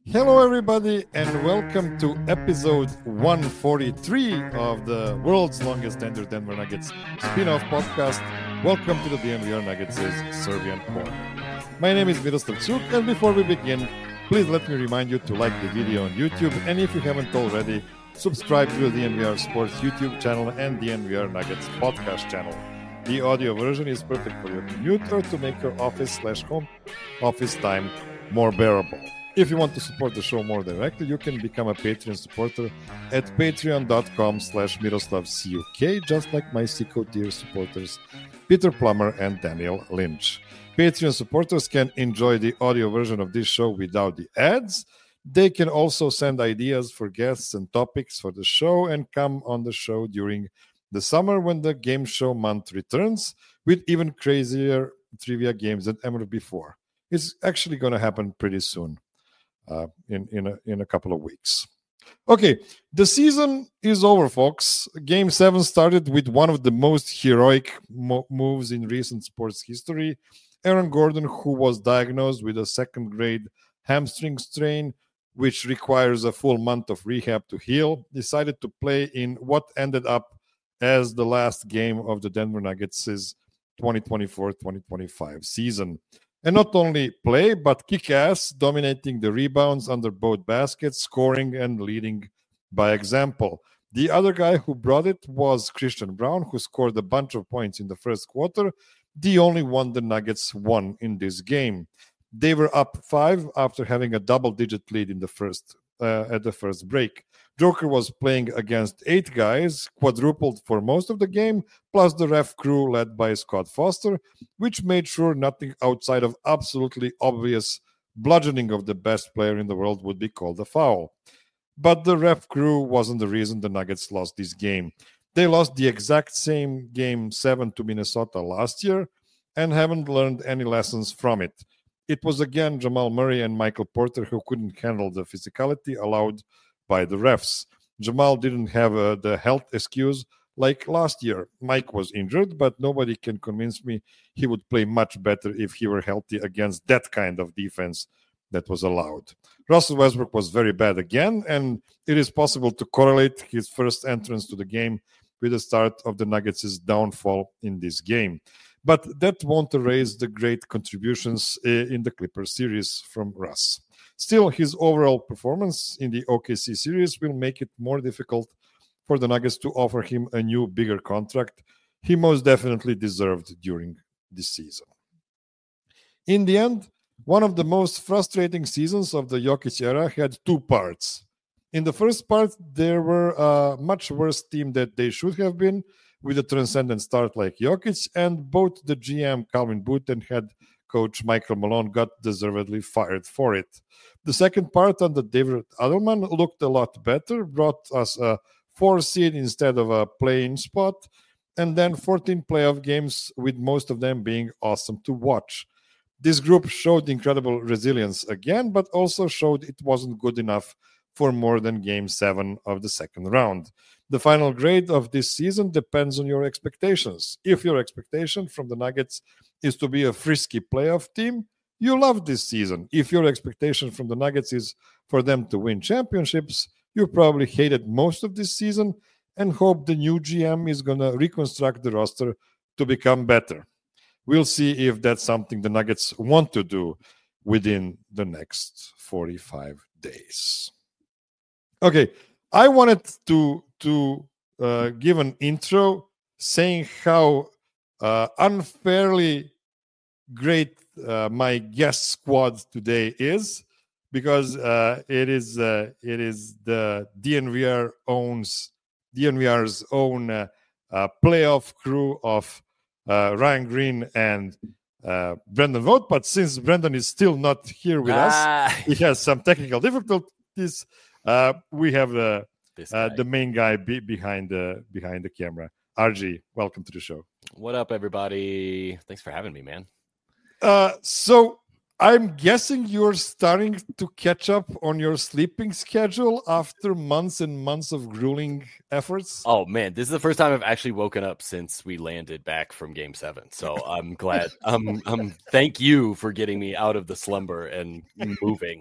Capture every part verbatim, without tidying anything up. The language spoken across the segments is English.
Hello, everybody, and welcome to episode one forty-three of the world's longest Denver Denver Nuggets spin-off podcast. Welcome to the D N V R Nuggets' Serbian Corner. My name is Miroslav Cuk, and before we begin, please let me remind you to like the video on YouTube, and if you haven't already, subscribe to the D N V R Sports YouTube channel and D N V R Nuggets podcast channel. The audio version is perfect for your commute or to make your office slash home office time more bearable. If you want to support the show more directly, you can become a Patreon supporter at patreon.com slash MiroslavCuk, just like my Sicko tier supporters, Peter Plummer and Daniel Lynch. Patreon supporters can enjoy the audio version of this show without the ads. They can also send ideas for guests and topics for the show and come on the show during the summer when the game show month returns with even crazier trivia games than ever before. It's actually going to happen pretty soon. Uh, in in a, in a couple of weeks. Okay, the season is over, folks. Game seven started with one of the most heroic mo- moves in recent sports history. Aaron Gordon, who was diagnosed with a second-grade hamstring strain, which requires a full month of rehab to heal, decided to play in what ended up as the last game of the Denver Nuggets' twenty twenty-four twenty twenty-five season. And not only play, but kick ass, dominating the rebounds under both baskets, scoring and leading by example. The other guy who brought it was Christian Braun, who scored a bunch of points in the first quarter, the only one the Nuggets won in this game. They were up five after having a double-digit lead in the first uh, at the first break. Joker was playing against eight guys, quadrupled for most of the game, plus the ref crew led by Scott Foster, which made sure nothing outside of absolutely obvious bludgeoning of the best player in the world would be called a foul. But the ref crew wasn't the reason the Nuggets lost this game. They lost the exact same game seven to Minnesota last year and haven't learned any lessons from it. It was again Jamal Murray and Michael Porter who couldn't handle the physicality allowed by the refs. Jamal didn't have uh, the health excuse like last year. Mike was injured, but nobody can convince me he would play much better if he were healthy against that kind of defense that was allowed. Russell Westbrook was very bad again, and it is possible to correlate his first entrance to the game with the start of the Nuggets' downfall in this game. But that won't erase the great contributions uh, in the Clippers series from Russ. Still, his overall performance in the O K C series will make it more difficult for the Nuggets to offer him a new, bigger contract he most definitely deserved during this season. In the end, one of the most frustrating seasons of the Jokic era had two parts. In the first part, there were a much worse team that they should have been, with a transcendent start like Jokic, and both the G M Calvin Booth and head coach Michael Malone got deservedly fired for it. The second part under David Adelman looked a lot better, brought us a four seed instead of a play-in spot, and then fourteen playoff games, with most of them being awesome to watch. This group showed incredible resilience again, but also showed it wasn't good enough for more than game seven of the second round. The final grade of this season depends on your expectations. If your expectation from the Nuggets is to be a frisky playoff team, you love this season. If your expectation from the Nuggets is for them to win championships, you probably hated most of this season and hope the new G M is going to reconstruct the roster to become better. We'll see if that's something the Nuggets want to do within the next forty-five days. Okay, I wanted to to uh, give an intro saying how uh, unfairly great uh, my guest squad today is, because uh, it is uh, it is the D N V R owns D N V R's own uh, uh, playoff crew of uh, Ryan Green and uh, Brendan Vogt. But since Brendan is still not here with ah. us, he has some technical difficulties. Uh, we have the uh, the main guy be- behind the behind the camera. R G, welcome to the show. What up, everybody? Thanks for having me, man. Uh, so I'm guessing you're starting to catch up on your sleeping schedule after months and months of grueling efforts. Oh man, this is the first time I've actually woken up since we landed back from Game Seven. So I'm glad. um, um, thank you for getting me out of the slumber and moving.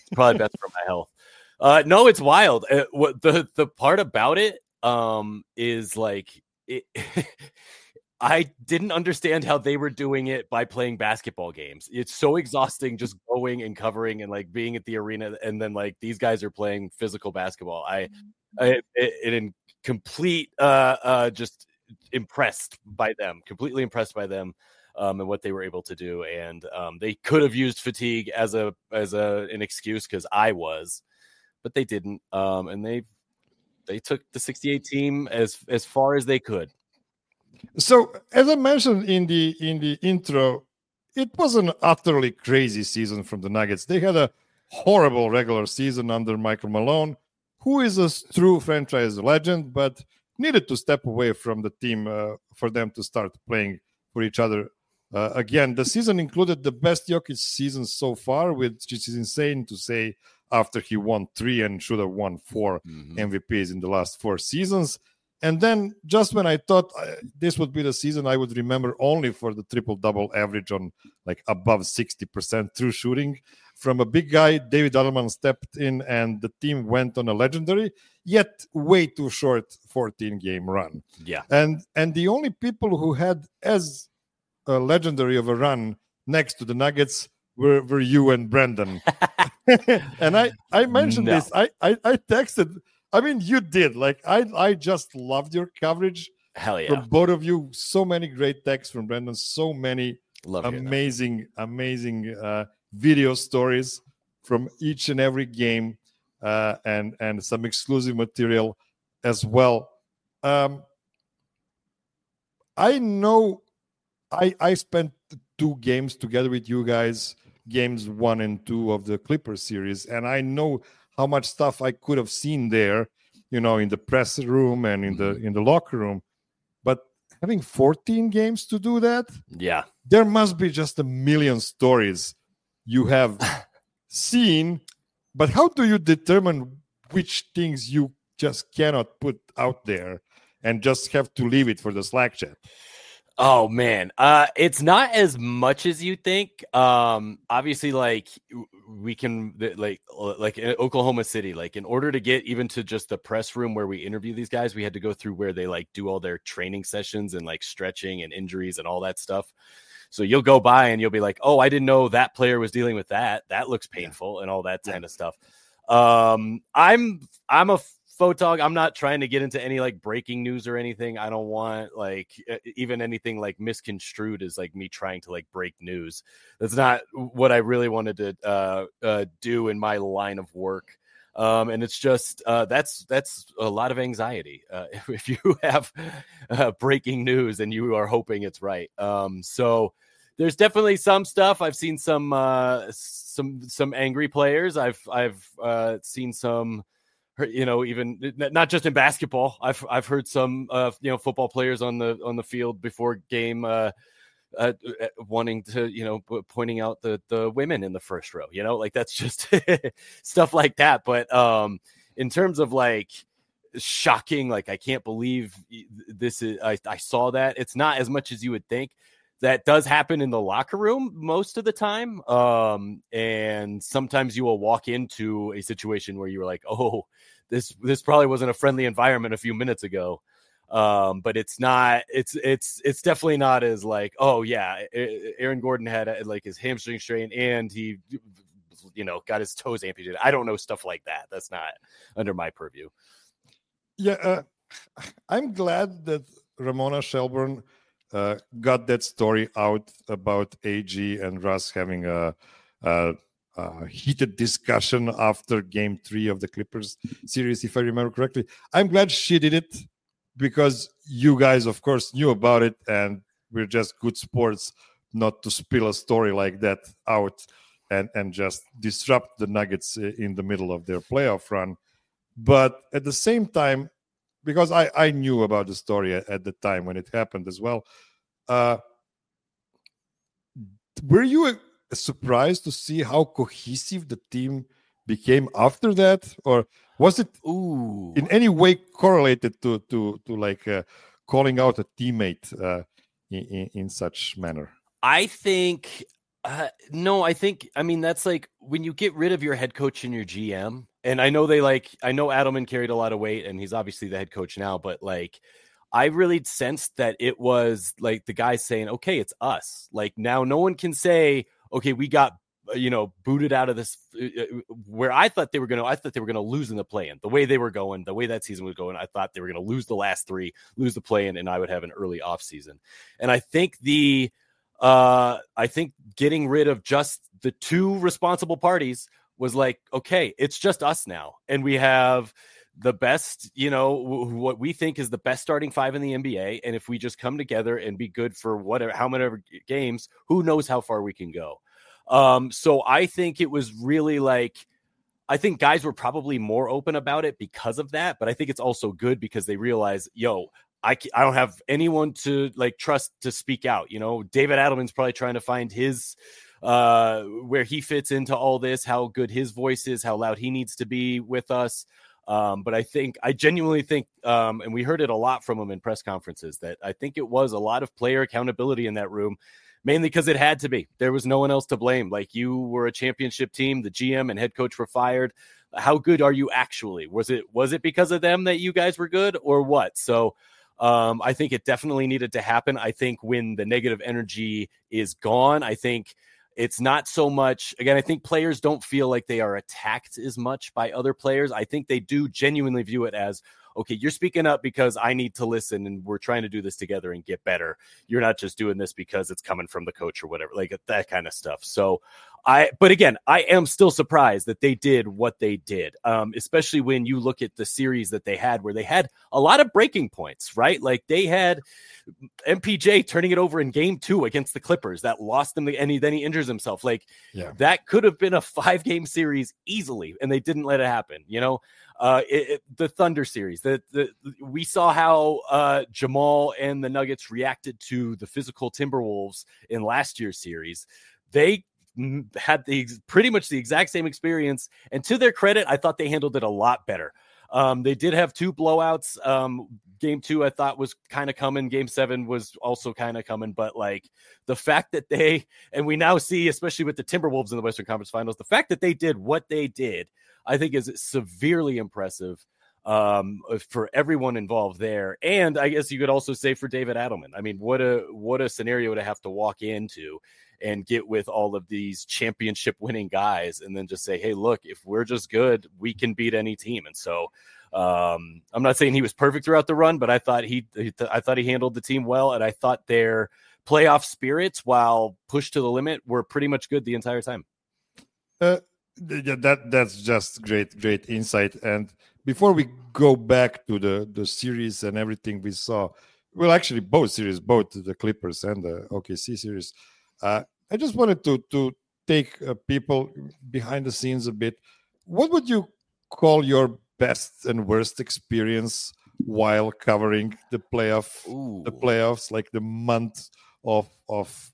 Probably best for my health. Uh, no, it's wild. Uh, what the the part about it um, is like it. I didn't understand how they were doing it by playing basketball games. It's so exhausting just going and covering and like being at the arena, and then like these guys are playing physical basketball. I, I it, it in complete uh uh just impressed by them, completely impressed by them. Um, and what they were able to do, and um, they could have used fatigue as a as a an excuse because I was, but they didn't. Um, and they they took the sixty-eight team as as far as they could. So, as I mentioned in the in the intro, it was an utterly crazy season from the Nuggets. They had a horrible regular season under Michael Malone, who is a true franchise legend, but needed to step away from the team uh, for them to start playing for each other. Uh, again, the season included the best Jokic season so far, which is insane to say after he won three and should have won four mm-hmm. M V Ps in the last four seasons. And then just when I thought uh, this would be the season I would remember only for the triple-double average on like above sixty percent true shooting from a big guy, David Allman stepped in and the team went on a legendary, yet way too short fourteen-game run. Yeah. And, and the only people who had as a legendary of a run next to the Nuggets were, were you and Brendan. And I, I mentioned no. this. I, I, I texted... I mean, you did. Like, I I just loved your coverage. Hell yeah. From both of you. So many great texts from Brendan. So many Love amazing, amazing uh, video stories from each and every game uh, and, and some exclusive material as well. Um, I know I, I spent two games together with you guys, games one and two of the Clippers series, and I know how much stuff I could have seen there, you know, in the press room and in the in the locker room. But having fourteen games to do that, yeah, there must be just a million stories you have seen. But how do you determine which things you just cannot put out there and just have to leave it for the Slack chat? Oh man, uh, it's not as much as you think. Um, obviously, like we can, like, like in Oklahoma City, like in order to get even to just the press room where we interview these guys, we had to go through where they like do all their training sessions and like stretching and injuries and all that stuff. So you'll go by and you'll be like, oh, I didn't know that player was dealing with that. That looks painful yeah. and all that kind of stuff. Um, I'm, I'm a photog. I'm not trying to get into any like breaking news or anything. I don't want like even anything like misconstrued as like me trying to like break news. That's not what I really wanted to uh, uh, do in my line of work. Um, and it's just uh, that's that's a lot of anxiety uh, if, if you have uh, breaking news and you are hoping it's right. Um, so there's definitely some stuff. I've seen some uh, some some angry players. I've I've uh, seen some. You know, even not just in basketball. I've I've heard some uh, you know football players on the on the field before game uh, uh, wanting to you know pointing out the the women in the first row. You know, like that's just stuff like that. But um, in terms of like shocking, like I can't believe this is. I, I saw that. It's not as much as you would think. That does happen in the locker room most of the time. Um, and sometimes you will walk into a situation where you were like, oh, this, this probably wasn't a friendly environment a few minutes ago. Um, but it's not, it's, it's, it's definitely not as like, oh yeah, Aaron Gordon had a, like his hamstring strain and he, you know, got his toes amputated. I don't know stuff like that. That's not under my purview. Yeah. Uh, I'm glad that Ramona Shelburne Uh, got that story out about A G and Russ having a, a, a heated discussion after game three of the Clippers series, if I remember correctly. I'm glad she did it because you guys, of course, knew about it and we're just good sports not to spill a story like that out and, and just disrupt the Nuggets in the middle of their playoff run. But at the same time, because I, I knew about the story at, at the time when it happened as well. Uh, were you surprised to see how cohesive the team became after that? Or was it Ooh. in any way correlated to to, to like uh, calling out a teammate uh, in, in, in such manner? I think Uh, no, I think, I mean, that's like when you get rid of your head coach and your G M, and I know they like, I know Adelman carried a lot of weight and he's obviously the head coach now, but like, I really sensed that it was like the guy saying, okay, it's us. Like now no one can say, okay, we got, you know, booted out of this uh, where I thought they were going to, I thought they were going to lose in the play-in. The way they were going, the way that season was going, I thought they were going to lose the last three, lose the play-in, and I would have an early off season. And I think the, Uh, I think getting rid of just the two responsible parties was like, okay, it's just us now. And we have the best, you know, w- what we think is the best starting five in the N B A. And if we just come together and be good for whatever, how many games, who knows how far we can go. Um, so I think it was really like, I think guys were probably more open about it because of that, but I think it's also good because they realize, yo, I, I don't have anyone to like trust to speak out. You know, David Adelman's probably trying to find his uh, where he fits into all this, how good his voice is, how loud he needs to be with us. Um, but I think I genuinely think, um, and we heard it a lot from him in press conferences, that I think it was a lot of player accountability in that room, mainly because it had to be. There was no one else to blame. Like you were a championship team, the G M and head coach were fired. How good are you actually? Was it was it because of them that you guys were good or what? So Um, I think it definitely needed to happen. I think when the negative energy is gone, I think it's not so much, again, I think players don't feel like they are attacked as much by other players. I think they do genuinely view it as, okay, you're speaking up because I need to listen and we're trying to do this together and get better. You're not just doing this because it's coming from the coach or whatever, like that kind of stuff. So I, but again, I am still surprised that they did what they did, um, especially when you look at the series that they had where they had a lot of breaking points, right? Like they had M P J turning it over in game two against the Clippers that lost them, and he, then he injures himself. Like yeah. That could have been a five game series easily, and they didn't let it happen. You know, uh, it, it, the Thunder series, the, the, we saw how uh, Jamal and the Nuggets reacted to the physical Timberwolves in last year's series. They had the pretty much the exact same experience, and to their credit, I thought they handled it a lot better. Um, they did have two blowouts. Um, game two, I thought was kind of coming. Game seven was also kind of coming, but like the fact that they, and we now see, especially with the Timberwolves in the Western Conference Finals, the fact that they did what they did, I think is severely impressive um, for everyone involved there. And I guess you could also say for David Adelman, I mean, what a, what a scenario to have to walk into and get with all of these championship winning guys and then just say, hey, look, if we're just good, we can beat any team. And so um, I'm not saying he was perfect throughout the run, but I thought he, he I thought he handled the team well. And I thought their playoff spirits, while pushed to the limit, were pretty much good the entire time. Uh, yeah, that that's just great, great insight. And before we go back to the, the series and everything we saw, well, actually both series, both the Clippers and the O K C series, Uh, I just wanted to to take uh, people behind the scenes a bit. What would you call your best and worst experience while covering the playoff, Ooh. the playoffs, like the month of of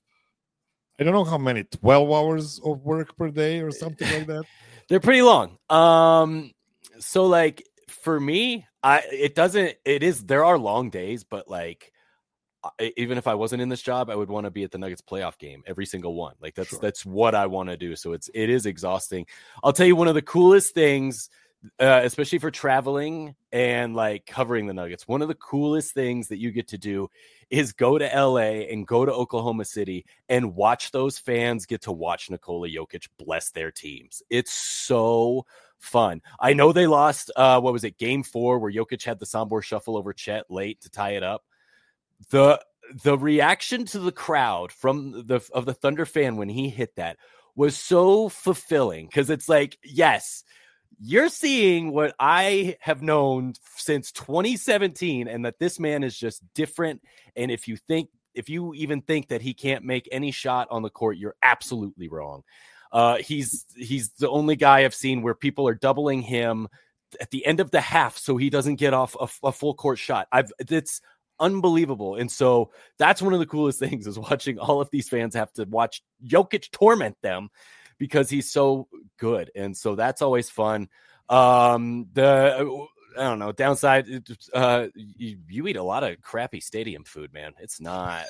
I don't know how many, twelve hours of work per day or something like that? They're pretty long. Um, so like for me, I it doesn't. It is there are long days, but like. Even if I wasn't in this job, I would want to be at the Nuggets playoff game, every single one. Like that's, sure. that's what I want to do. So it's, it is exhausting. I'll tell you one of the coolest things, uh, especially for traveling and like covering the Nuggets. One of the coolest things that you get to do is go to L A and go to Oklahoma City and watch those fans get to watch Nikola Jokic bless their teams. It's so fun. I know they lost, uh, what was it? Game four where Jokic had the Sombor shuffle over Chet late to tie it up. The the reaction to the crowd from the of the Thunder fan when he hit that was so fulfilling because it's like, yes, you're seeing what I have known since twenty seventeen, and that this man is just different. And if you think, if you even think that he can't make any shot on the court, you're absolutely wrong. Uh, he's he's the only guy I've seen where people are doubling him at the end of the half so he doesn't get off a, a full court shot. I've it's unbelievable. And so that's one of the coolest things is watching all of these fans have to watch Jokic torment them because he's so good. And so that's always fun. Um, the, I don't know, downside, uh, you, you eat a lot of crappy stadium food, man. It's not,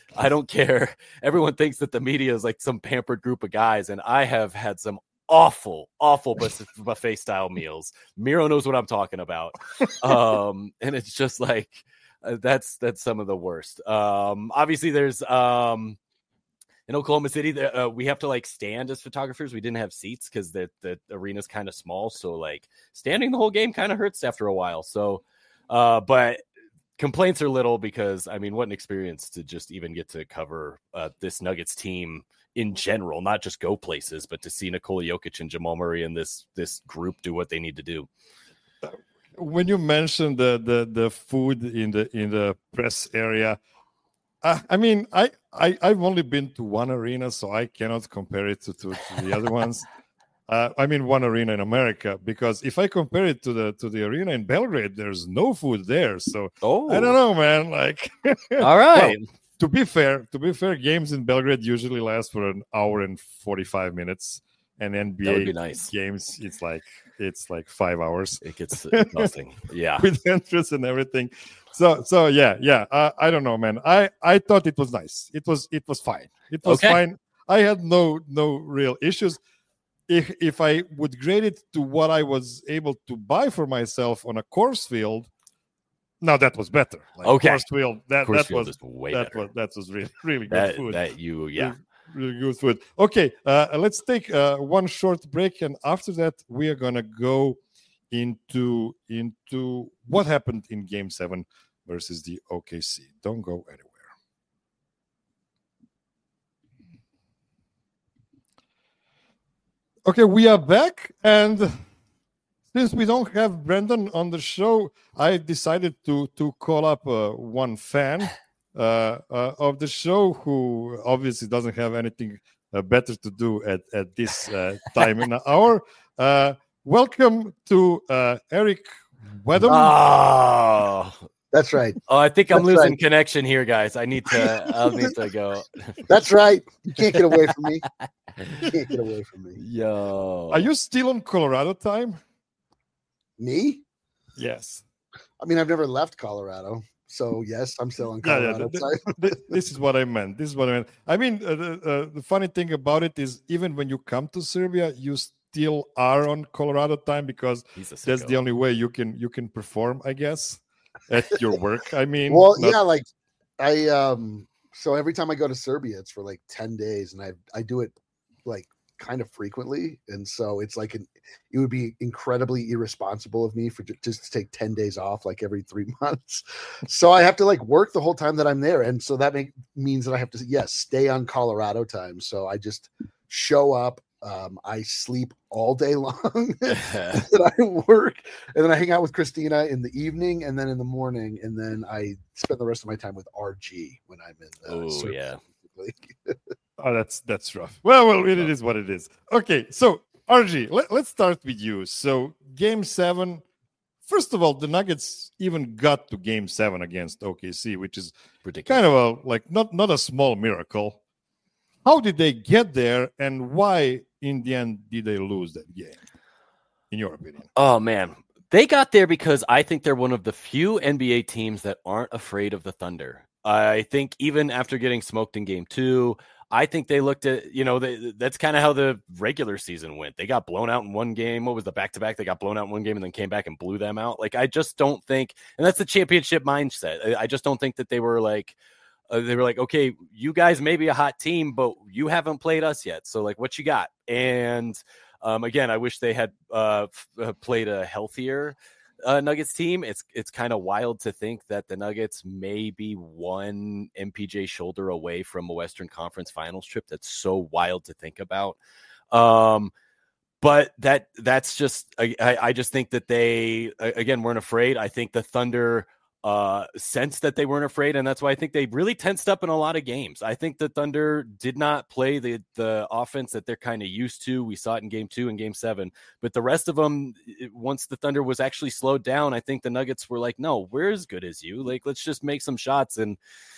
I don't care. Everyone thinks that the media is like some pampered group of guys, and I have had some awful, awful buffet style meals. Miro knows what I'm talking about. Um, and it's just like, uh, that's, that's some of the worst. Um, obviously there's, um, in Oklahoma City, uh, we have to like stand as photographers. We didn't have seats because the, the arena's kind of small. So like standing the whole game kind of hurts after a while. So, uh, but complaints are little because, I mean, what an experience to just even get to cover uh, this Nuggets team in general, not just go places, but to see Nikola Jokic and Jamal Murray and this this group do what they need to do. When you mentioned the the the food in the in the press area, uh, I mean, I, I I've only been to one arena, so I cannot compare it to, to, to the other ones. Uh, I mean, one arena in America, because if I compare it to the to the arena in Belgrade, there's no food there. So oh, I don't know, man. Like, all right. Well, to be fair, to be fair, games in Belgrade usually last for an hour and forty-five minutes, and N B A that would be nice. games, it's like it's like five hours. It gets nothing. Yeah, with entrance and everything. So so yeah yeah. Uh, I don't know, man. I I thought it was nice. It was it was fine. It was okay. fine. I had no no real issues. If if I would grade it to what I was able to buy for myself on a course field, now that was better. Like okay, course field that course that field was way that better. was that was really really good that, food. That you yeah, really, really good food. Okay, uh, let's take uh, one short break, and after that we are gonna go into into what happened in Game Seven versus the O K C. Don't go anywhere. Okay, we are back, and since we don't have Brendan on the show, I decided to to call up uh, one fan uh, uh, of the show who obviously doesn't have anything uh, better to do at, at this uh, time in the hour. Uh, welcome to uh, Eric Wedham. Oh, that's right. Oh, I think I'm That's losing right. connection here, guys. I need to. I'll need to go. That's right. You can't get away from me. You can't get away from me. Yo, Are you still on Colorado time? Me? Yes. I mean, I've never left Colorado, so yes, I'm still in Colorado. Yeah, yeah, th- th- this is what I meant. This is what I meant. I mean, uh, the, uh, the funny thing about it is, even when you come to Serbia, you still are on Colorado time because that's the only way you can you can perform, I guess, at your work. I mean, well, not... yeah, like I um. So every time I go to Serbia, it's for like ten days, and I I do it like kind of frequently, and so it's like an, it would be incredibly irresponsible of me for j- just to take ten days off like every three months. So I have to like work the whole time that I'm there, and so that make, means that I have to yes stay on Colorado time. So I just show up, um, I sleep all day long, and I work, and then I hang out with Christina in the evening, and then in the morning, and then I spend the rest of my time with R G when I'm in. Uh, oh Serbia. yeah. Oh, that's that's rough. Well, well, it is what it is. Okay, so R G, let, let's start with you. So, Game Seven. First of all, the Nuggets even got to Game Seven against O K C, which is Ridiculous. kind of a like not not a small miracle. How did they get there, and why, in the end, did they lose that game? In your opinion? Oh man, they got there because I think they're one of the few N B A teams that aren't afraid of the Thunder. I think even after getting smoked in Game Two. I think they looked at, you know, they, that's kind of how the regular season went. They got blown out in one game. What was the back-to-back? They got blown out in one game and then came back and blew them out. Like, I just don't think, and that's the championship mindset. I, I just don't think that they were like, uh, they were like, okay, you guys may be a hot team, but you haven't played us yet. So, like, what you got? And um, again, I wish they had uh, f- played a healthier Uh, Nuggets team. It's it's kind of wild to think that the Nuggets may be one M P J shoulder away from a Western Conference Finals trip. That's so wild to think about. Um, but that that's just I, I just think that they again weren't afraid. I think the Thunder uh sense that they weren't afraid, and that's why I think they really tensed up in a lot of games. I think the Thunder did not play the the offense that they're kind of used to. We saw it in game two and game seven, but the rest of them, once the Thunder was actually slowed down, I think the Nuggets were like, no, we're as good as you, like let's just make some shots. And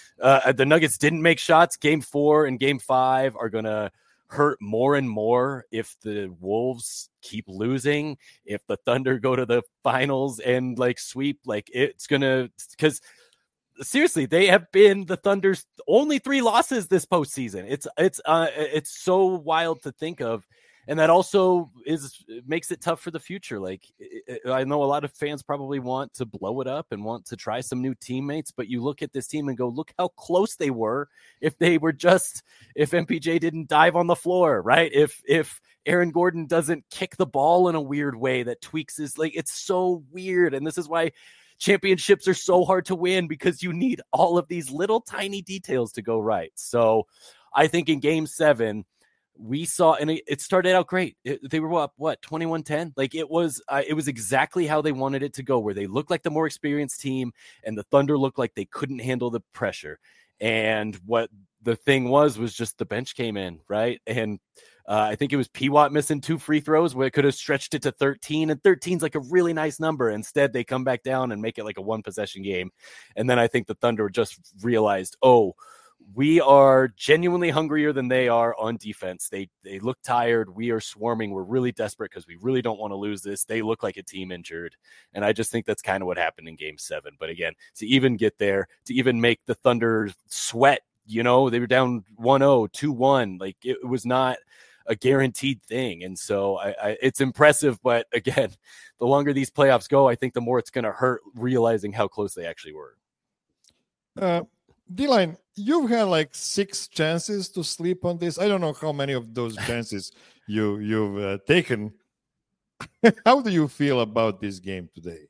uh the Nuggets didn't make shots. Game four and game five are gonna hurt more and more if the Wolves keep losing, if the Thunder go to the finals and like sweep, like it's gonna, because seriously, they have been the Thunder's only three losses this postseason. It's it's uh it's so wild to think of. And that also is makes it tough for the future. Like, I know a lot of fans probably want to blow it up and want to try some new teammates, but you look at this team and go, look how close they were if they were just, if M P J didn't dive on the floor, right? If, if Aaron Gordon doesn't kick the ball in a weird way that tweaks his, like, it's so weird. And this is why championships are so hard to win, because you need all of these little tiny details to go right. So I think in game seven, we saw, and it, it started out great. It, they were up, what, twenty-one ten? Like, it was uh, it was exactly how they wanted it to go, where they looked like the more experienced team and the Thunder looked like they couldn't handle the pressure. And what the thing was, was just the bench came in, right? And uh, I think it was P. Watt missing two free throws where it could have stretched it to thirteen, and thirteen's like a really nice number. Instead, they come back down and make it like a one possession game. And then I think the Thunder just realized, oh, we are genuinely hungrier than they are on defense. They they look tired. We are swarming. We're really desperate because we really don't want to lose this. They look like a team injured. And I just think that's kind of what happened in game seven. But again, to even get there, to even make the Thunder sweat, you know, they were down one oh, two one. Like, it was not a guaranteed thing. And so I, I, it's impressive. But again, the longer these playoffs go, I think the more it's going to hurt realizing how close they actually were. Uh, D-Line, you've had like six chances to sleep on this. I don't know how many of those chances you, you've uh, taken. How do you feel about this game today?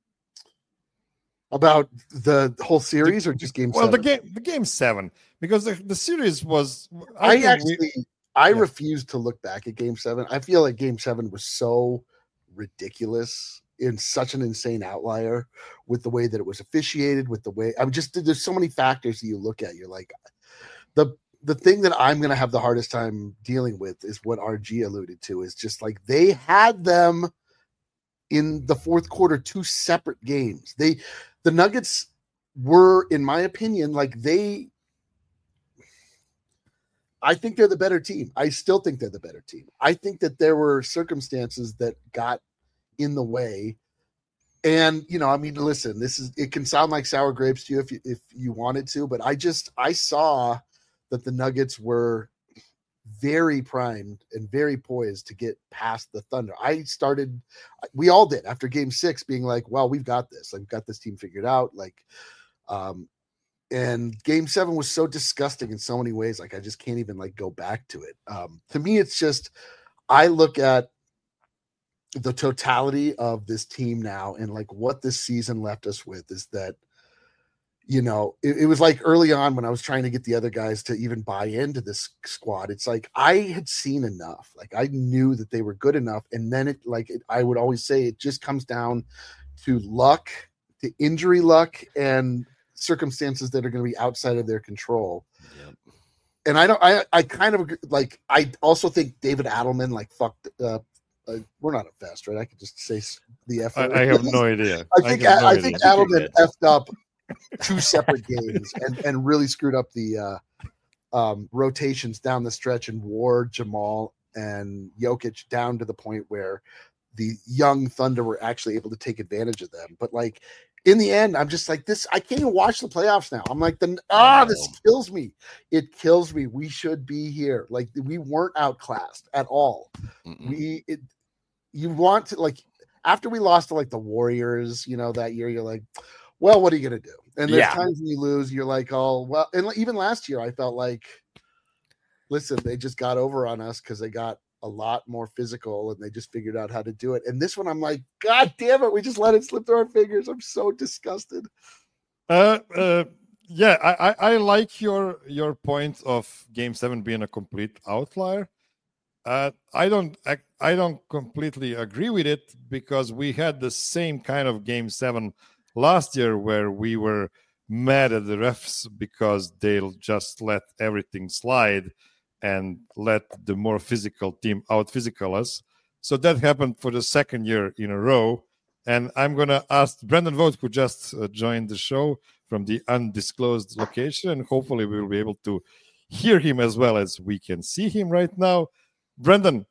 About the whole series, the, or just game well, seven? Well, the game, the game seven, because the, the series was. I, I actually, we, I yeah. refuse to look back at game seven. I feel like game seven was so ridiculous, in such an insane outlier, with the way that it was officiated, with the way I'm just, there's so many factors that you look at. You're like, the, the thing that I'm going to have the hardest time dealing with is what R G alluded to, is just like, they had them in the fourth quarter, two separate games. They, the Nuggets were, in my opinion, like they, I think they're the better team. I still think they're the better team. I think that there were circumstances that got in the way. And, you know, I mean, listen, this is, it can sound like sour grapes to you if you, if you wanted to, but I just, I saw that the Nuggets were very primed and very poised to get past the Thunder. I started, we all did after game six being like, well, we've got this, like, we've got this team figured out. Like, um, and game seven was so disgusting in so many ways. Like, I just can't even like go back to it. Um, to me, it's just, I look at the totality of this team now, and like what this season left us with is that, you know, it, it was like early on when I was trying to get the other guys to even buy into this squad. It's like, I had seen enough, like I knew that they were good enough. And then it like, it, I would always say it just comes down to luck, to injury luck, and circumstances that are going to be outside of their control. Yep. And I don't, I, I kind of like, I also think David Adelman like fucked uh, Uh, we're not a fest, right? I could just say the F. I, I have no idea. I think I, no I think Adelman effed up two separate games and, and really screwed up the uh, um, rotations down the stretch, and wore Jamal and Jokic down to the point where the young Thunder were actually able to take advantage of them. But like in the end, I'm just like this. I can't even watch the playoffs now. I'm like, the ah, this kills me. It kills me. We should be here. Like, we weren't outclassed at all. Mm-mm. We, it, you want to, like, after we lost to like the Warriors, you know, that year, you're like, well, what are you gonna do? And there's yeah. times when you lose, you're like, oh well. And even last year, I felt like, listen, they just got over on us because they got a lot more physical and they just figured out how to do it. And this one, I'm like, God damn it, we just let it slip through our fingers. I'm so disgusted. Uh, uh yeah, I, I, I like your your point of game seven being a complete outlier. Uh, I don't I, I don't completely agree with it, because we had the same kind of game seven last year where we were mad at the refs because they'll just let everything slide and let the more physical team out physical us. So that happened for the second year in a row. And I'm going to ask Brendan Vogt, who just uh, joined the show from the undisclosed location, and hopefully we will be able to hear him as well as we can see him right now. Brendan,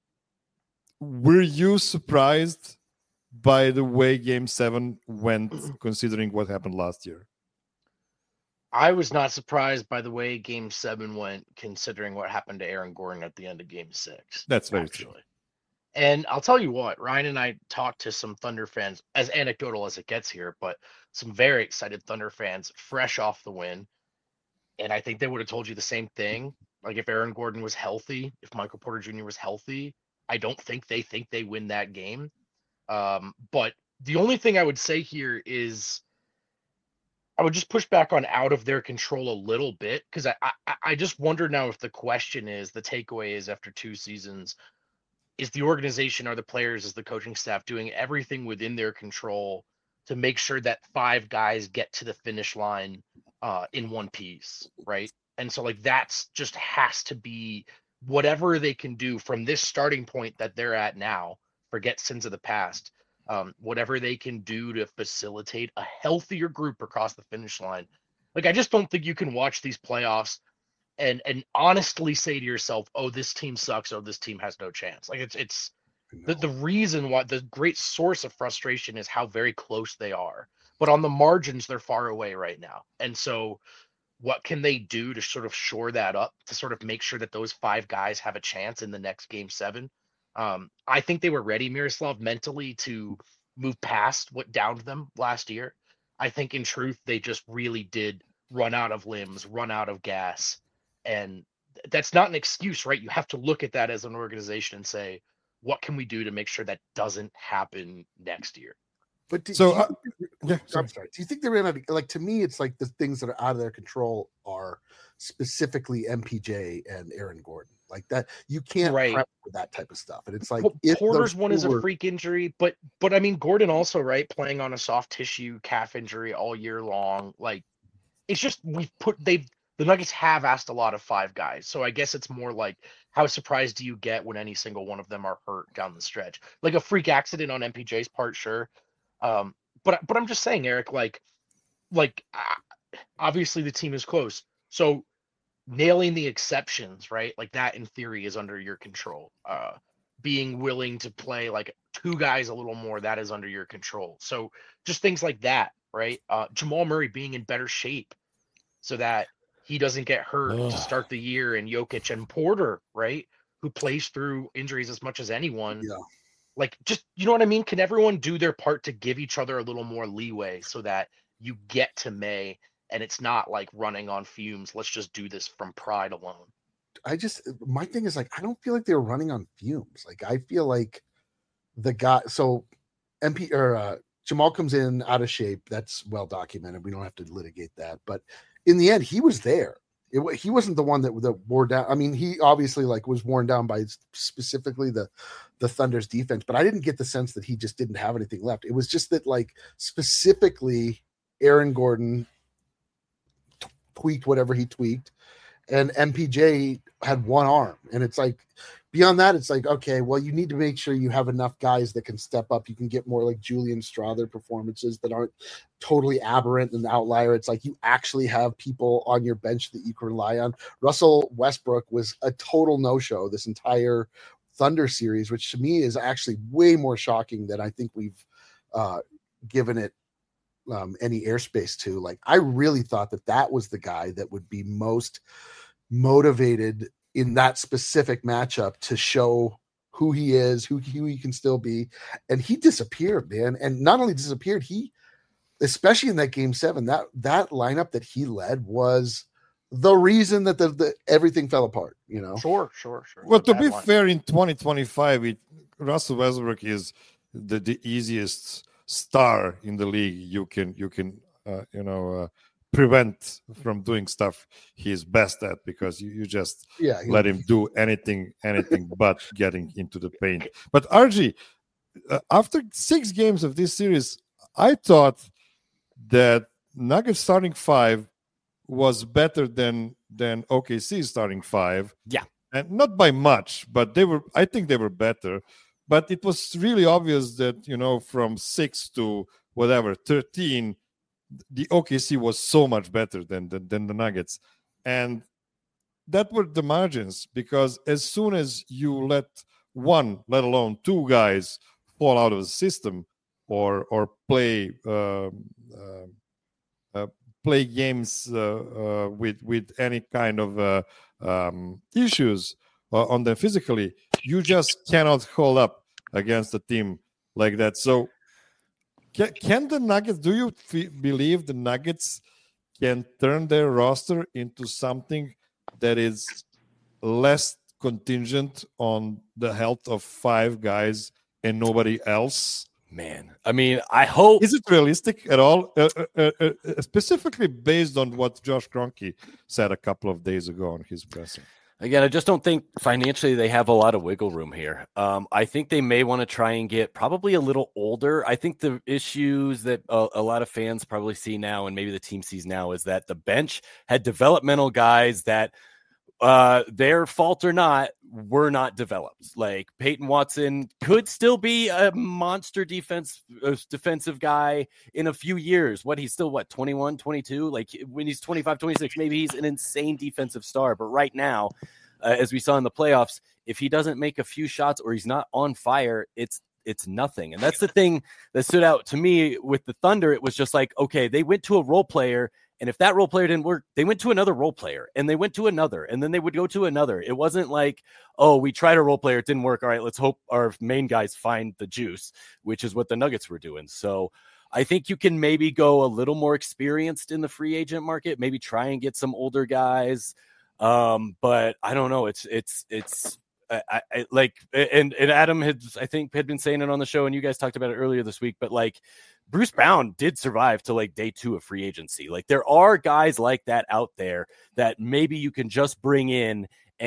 were you surprised by the way game seven went, considering what happened last year? I was not surprised by the way Game Seven went, considering what happened to Aaron Gordon at the end of Game Six. That's very actually. true. And I'll tell you what, Ryan and I talked to some Thunder fans, as anecdotal as it gets here, but some very excited Thunder fans fresh off the win. And I think they would have told you the same thing. Like if Aaron Gordon was healthy, if Michael Porter Junior was healthy, I don't think they think they win that game. Um, but the only thing I would say here is I would just push back on out of their control a little bit, because I, I I just wonder now if the question is, the takeaway is after two seasons, is the organization, are the players, is the coaching staff doing everything within their control to make sure that five guys get to the finish line uh, in one piece, right? And so like that's just has to be whatever they can do from this starting point that they're at now, forget sins of the past, um, whatever they can do to facilitate a healthier group across the finish line. Like I just don't think you can watch these playoffs and and honestly say to yourself, oh, this team sucks, oh, this team has no chance. Like it's it's the, the reason why, the great source of frustration is how very close they are. But on the margins, they're far away right now. And so what can they do to sort of shore that up, to sort of make sure that those five guys have a chance in the next game seven? Um, I think they were ready, Miroslav, mentally to move past what downed them last year. I think in truth, they just really did run out of limbs, run out of gas. And that's not an excuse, right? You have to look at that as an organization and say, what can we do to make sure that doesn't happen next year? But do, So, do you, uh, yeah, sorry. I'm sorry. Do you think they ran out of, like, to me, it's like the things that are out of their control are specifically M P J and Aaron Gordon. Like that, you can't Right. prep for that type of stuff. And it's like, Well, if Porter's those one is two a were- freak injury, but but I mean Gordon also, right, playing on a soft tissue calf injury all year long. Like it's just we've put they've the Nuggets have asked a lot of five guys. So I guess it's more like, how surprised do you get when any single one of them are hurt down the stretch? Like a freak accident on M P J's part, sure. Um, but but I'm just saying, Eric, like like uh, obviously the team is close. So nailing the exceptions, right? Like that in theory is under your control. Uh, being willing to play like two guys a little more, that is under your control. So just things like that, right? Uh, Jamal Murray being in better shape so that he doesn't get hurt Ugh. to start the year, and Jokic and Porter, right? Who plays through injuries as much as anyone. Yeah. Like just, you know what I mean? Can everyone do their part to give each other a little more leeway so that you get to May and it's not like running on fumes? Let's just do this from pride alone. I just, my thing is like, I don't feel like they're running on fumes. Like I feel like the guy, so M P or uh, Jamal comes in out of shape. That's well documented. We don't have to litigate that. But in the end, he was there. It, wa- he wasn't the one that, that wore down. I mean, he obviously like was worn down by specifically the, the Thunder's defense, but I didn't get the sense that he just didn't have anything left. It was just that like specifically Aaron Gordon t- tweaked whatever he tweaked, and M P J had one arm. And it's like, beyond that, it's like, okay, well, you need to make sure you have enough guys that can step up. You can get more like Julian Strother performances that aren't totally aberrant and outlier. It's like you actually have people on your bench that you can rely on. Russell Westbrook was a total no-show this entire Thunder series, which to me is actually way more shocking than I think we've uh, given it um, any airspace to. Like, I really thought that that was the guy that would be most motivated in that specific matchup to show who he is, who, who he can still be. And he disappeared, man. And not only disappeared, he, especially in that game seven, that, that lineup that he led was the reason that the, the everything fell apart, you know? Sure, sure, sure. Well, to Bad be line. fair, in twenty twenty-five, it, Russell Westbrook is the, the easiest star in the league. You can you can uh, you know uh, prevent from doing stuff he's best at, because you, you just Yeah. he- let him do anything anything but getting into the paint. But R G, uh, after six games of this series, I thought that Nuggets starting five was better than than O K C starting five. Yeah. And not by much, but they were, I think they were better. But it was really obvious that, you know, from six to whatever, thirteen, the O K C was so much better than, than, than the Nuggets. And that were the margins, because as soon as you let one, let alone two guys fall out of the system or or play um, uh, uh, play games uh, uh, with with any kind of uh, um, issues uh, on them physically. You just cannot hold up against a team like that. So, can, can the Nuggets? Do you f- believe the Nuggets can turn their roster into something that is less contingent on the health of five guys and nobody else? Man, I mean, I hope. Is it realistic at all? Uh, uh, uh, uh, specifically based on what Josh Kroenke said a couple of days ago on his presser. Again, I just don't think financially they have a lot of wiggle room here. Um, I think they may want to try and get probably a little older. I think the issues that a, a lot of fans probably see now, and maybe the team sees now, is that the bench had developmental guys that, uh, their fault or not, were not developed. Like Peyton Watson could still be a monster defense uh, defensive guy in a few years. What he's still what twenty-one, twenty-two, like when he's twenty-five, twenty-six, maybe he's an insane defensive star. But right now, uh, as we saw in the playoffs, if he doesn't make a few shots or he's not on fire, it's it's nothing. And that's the thing that stood out to me with the Thunder. It was just like, okay, they went to a role player, and if that role player didn't work, they went to another role player, and they went to another, and then they would go to another. It wasn't like, oh, we tried a role player, it didn't work. All right, let's hope our main guys find the juice, which is what the Nuggets were doing. So I think you can maybe go a little more experienced in the free agent market, maybe try and get some older guys. Um, but I don't know. It's, it's, it's, I, I like, and, and Adam had, I think, had been saying it on the show, and you guys talked about it earlier this week, but like Bruce Brown did survive to like day two of free agency. Like there are guys like that out there that maybe you can just bring in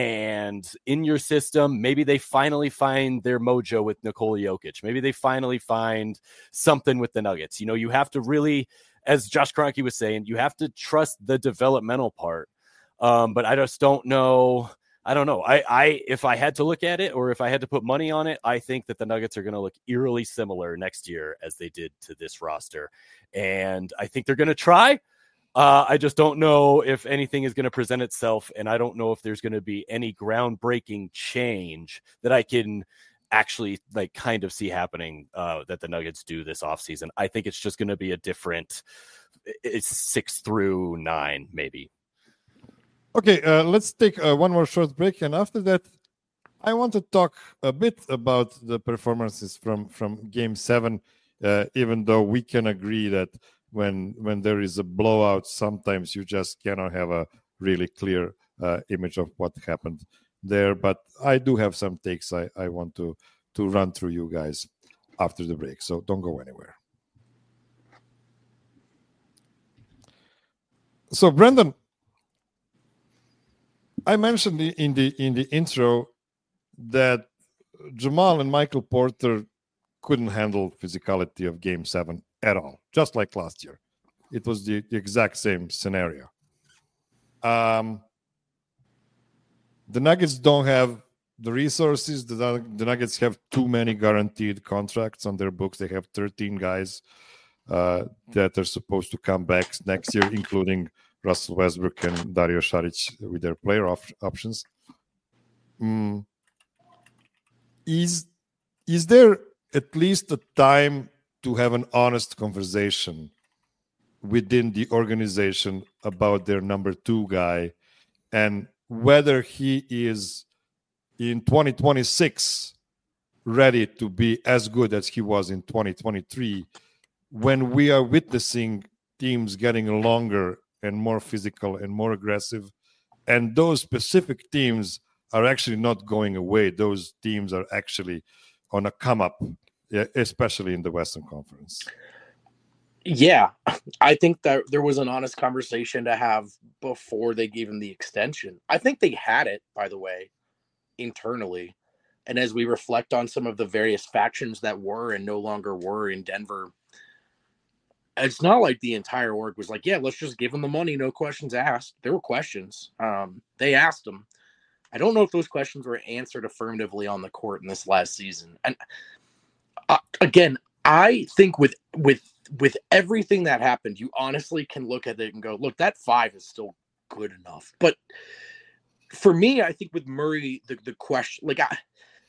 and in your system, maybe they finally find their mojo with Nikola Jokic. Maybe they finally find something with the Nuggets. You know, you have to really, as Josh Kroenke was saying, you have to trust the developmental part. Um, but I just don't know. I don't know. I, I, if I had to look at it, or if I had to put money on it, I think that the Nuggets are going to look eerily similar next year as they did to this roster. And I think they're going to try. Uh, I just don't know if anything is going to present itself. And I don't know if there's going to be any groundbreaking change that I can actually like kind of see happening uh, that the Nuggets do this offseason. I think it's just going to be a different it's six through nine, maybe. Okay, uh, let's take uh, one more short break, and after that, I want to talk a bit about the performances from from Game Seven. Uh, even though we can agree that when when there is a blowout, sometimes you just cannot have a really clear uh, image of what happened there. But I do have some takes I, I want to to run through you guys after the break, so don't go anywhere. So, Brendan, I mentioned in the in the intro that Jamal and Michael Porter couldn't handle physicality of Game Seven at all, just like last year. It was the, the exact same scenario. Um, the Nuggets don't have the resources. The, the Nuggets have too many guaranteed contracts on their books. They have thirteen guys uh, that are supposed to come back next year, including Russell Westbrook and Dario Saric with their player op- options. Mm. Is is there at least a time to have an honest conversation within the organization about their number two guy and whether he is in twenty twenty-six ready to be as good as he was in twenty twenty-three, when we are witnessing teams getting longer and more physical and more aggressive, and those specific teams are actually not going away. Those teams are actually on a come up, especially in the Western Conference. Yeah, I think that there was an honest conversation to have before they gave him the extension. I think they had it, by the way, internally. And as we reflect on some of the various factions that were and no longer were in Denver, it's not like the entire org was like, yeah, let's just give them the money, no questions asked. There were questions. Um, they asked them. I don't know if those questions were answered affirmatively on the court in this last season. And uh, again, I think with with with everything that happened, you honestly can look at it and go, look, that five is still good enough. But for me, I think with Murray, the, the question, like I,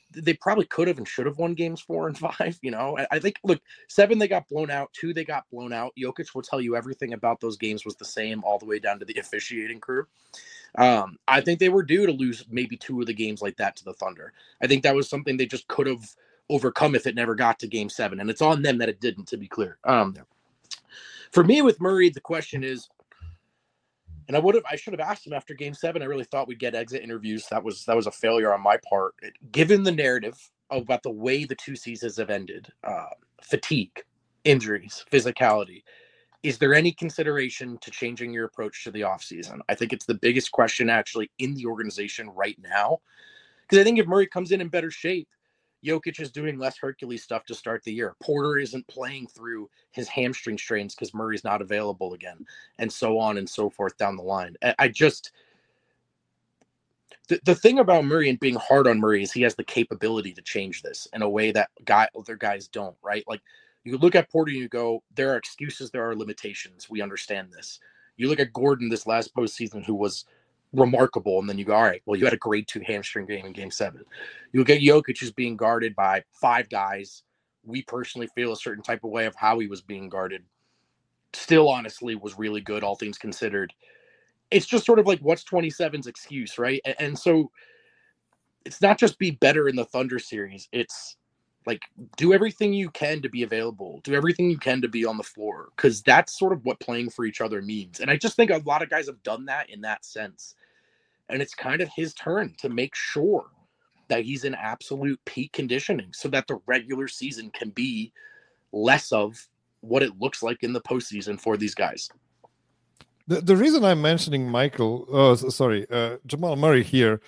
they probably could have and should have won games four and five. You know, I, I think, look, seven, they got blown out. Two, they got blown out. Jokic will tell you everything about those games was the same all the way down to the officiating crew. Um, I think they were due to lose maybe two of the games like that to the Thunder. I think that was something they just could have overcome if it never got to game seven. And it's on them that it didn't, to be clear. Um, for me with Murray, the question is, and I would have, I should have asked him after game seven. I really thought we'd get exit interviews. That was, that was a failure on my part. Given the narrative about the way the two seasons have ended, uh, fatigue, injuries, physicality, is there any consideration to changing your approach to the offseason? I think it's the biggest question actually in the organization right now. Because I think if Murray comes in in better shape, Jokic is doing less Hercules stuff to start the year. Porter isn't playing through his hamstring strains because Murray's not available again, and so on and so forth down the line. I just the, the thing about Murray and being hard on Murray is he has the capability to change this in a way that guy other guys don't, right? Like you look at Porter and you go, there are excuses, there are limitations. We understand this. You look at Gordon this last postseason, who was remarkable, and then you go, all right, well, you had a grade two hamstring game in game seven. You look at Jokic who's being guarded by five guys. We personally feel a certain type of way of how he was being guarded. Still, honestly, was really good, all things considered. It's just sort of like, what's twenty-seven's excuse, right? And, and so it's not just be better in the Thunder series. It's like, do everything you can to be available. Do everything you can to be on the floor, because that's sort of what playing for each other means. And I just think a lot of guys have done that in that sense. And it's kind of his turn to make sure that he's in absolute peak conditioning so that the regular season can be less of what it looks like in the postseason for these guys. The, the reason I'm mentioning Michael, oh, sorry, uh, Jamal Murray here,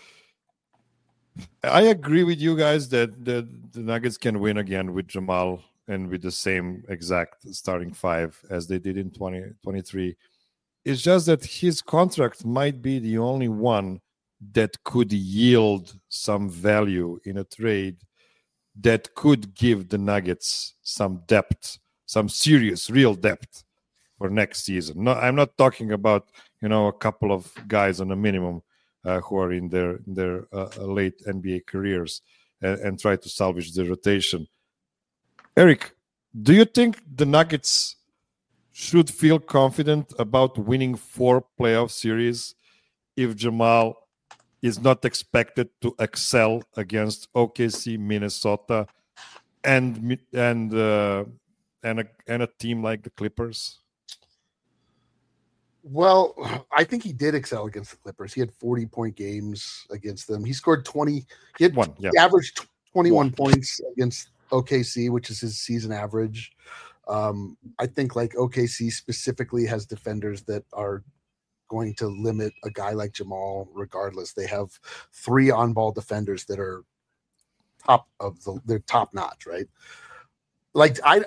I agree with you guys that, that the Nuggets can win again with Jamal and with the same exact starting five as they did in twenty twenty-three. It's just that his contract might be the only one that could yield some value in a trade that could give the Nuggets some depth, some serious, real depth for next season. No, I'm not talking about, you know, a couple of guys on a minimum uh, who are in their in their uh, late N B A careers and, and try to salvage the rotation. Eric, do you think the Nuggets should feel confident about winning four playoff series if Jamal is not expected to excel against O K C, Minnesota, and and uh, and a and a team like the Clippers? Well, I think he did excel against the Clippers. He had forty-point games against them. He scored twenty. He had one. Yeah. He averaged twenty-one points against O K C, which is his season average. Um, I think like O K C specifically has defenders that are going to limit a guy like Jamal regardless. They have three on-ball defenders that are top of the they're top notch, right? Like I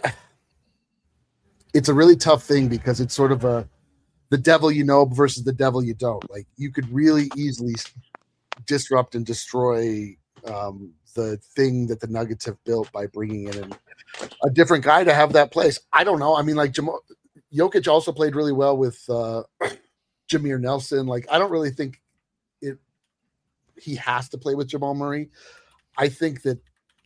it's a really tough thing because it's sort of a the devil you know versus the devil you don't. Like you could really easily disrupt and destroy um, the thing that the Nuggets have built by bringing in a different guy to have that place. I don't know. I mean, like Jamal, Jokic also played really well with uh, Jameer Nelson. Like I don't really think it. He has to play with Jamal Murray. I think that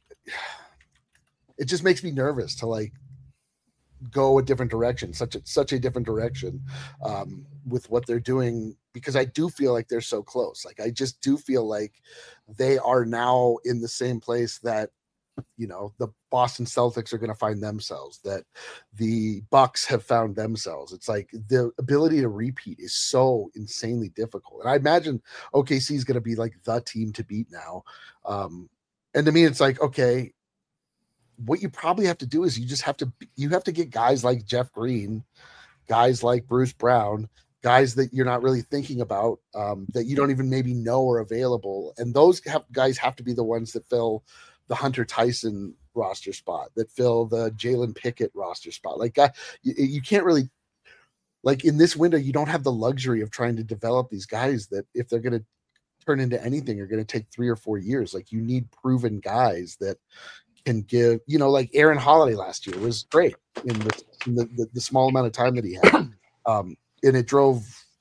it just makes me nervous to like go a different direction, such a such a different direction um, with what they're doing, because I do feel like they're so close. Like I just do feel like they are now in the same place that, you know, the Boston Celtics are going to find themselves, that the Bucks have found themselves. It's like the ability to repeat is so insanely difficult. And I imagine O K C is going to be like the team to beat now. Um, and to me, it's like, okay, what you probably have to do is you just have to, you have to get guys like Jeff Green, guys like Bruce Brown, guys that you're not really thinking about, um, that you don't even maybe know are available. And those have, guys have to be the ones that fill the Hunter Tyson roster spot, that fill the Jalen Pickett roster spot. Like uh, you, you can't really, like in this window, you don't have the luxury of trying to develop these guys that if they're going to turn into anything are going to take three or four years. Like you need proven guys that can give, you know, like Aaron Holiday last year was great in the, in the, the, the small amount of time that he had. Um, and it drove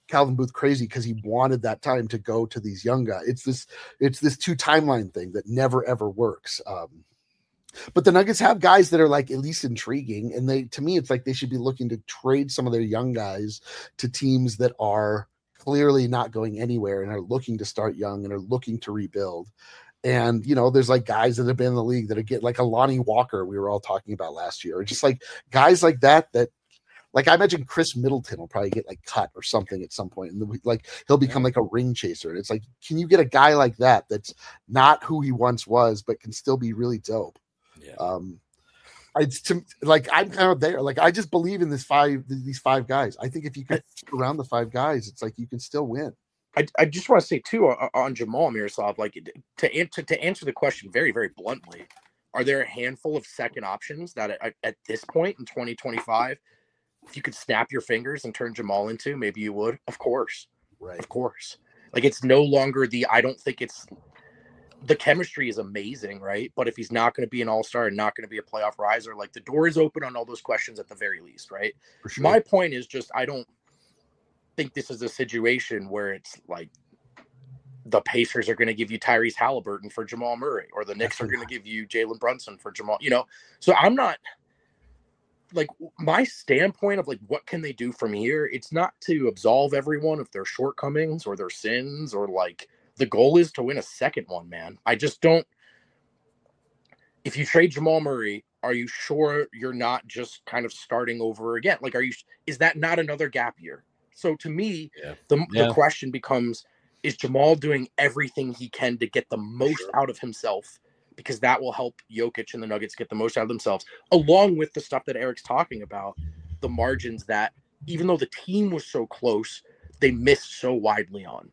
Calvin Booth crazy because he wanted that time to go to these young guys. It's this it's this two timeline thing that never ever works. Um, but the Nuggets have guys that are like at least intriguing, and they to me it's like they should be looking to trade some of their young guys to teams that are clearly not going anywhere and are looking to start young and are looking to rebuild. And, you know, there's like guys that have been in the league that are getting like a Lonnie Walker we were all talking about last year. Or just like guys like that, that like I imagine Chris Middleton will probably get like cut or something at some point. And like he'll become like a ring chaser. And it's like, can you get a guy like that that's not who he once was, but can still be really dope? Yeah. Um, It's to, like I'm kind of there. Like I just believe in this five these five guys. I think if you could stick around the five guys, it's like you can still win. I, I just want to say too on, on Jamal Miroslav, like to answer to answer the question very very bluntly, are there a handful of second options that at, at this point in twenty twenty-five, if you could snap your fingers and turn Jamal into, maybe you would? Of course, right? Of course. Like it's no longer the. I don't think it's. The chemistry is amazing, right? But if he's not going to be an all-star and not going to be a playoff riser, like the door is open on all those questions at the very least, right? For sure. My point is just I don't think this is a situation where it's like the Pacers are going to give you Tyrese Halliburton for Jamal Murray, or the Knicks are going to give you Jalen Brunson for Jamal, you know? So I'm not like my standpoint of like, what can they do from here? It's not to absolve everyone of their shortcomings or their sins, or like the goal is to win a second one, man. I just don't, if you trade Jamal Murray, are you sure you're not just kind of starting over again? Like, are you, is that not another gap year? So to me, yeah. the, yeah. the question becomes, is Jamal doing everything he can to get the most Sure. out of himself? Because that will help Jokic and the Nuggets get the most out of themselves, along with the stuff that Eric's talking about, the margins that even though the team was so close, they missed so widely on.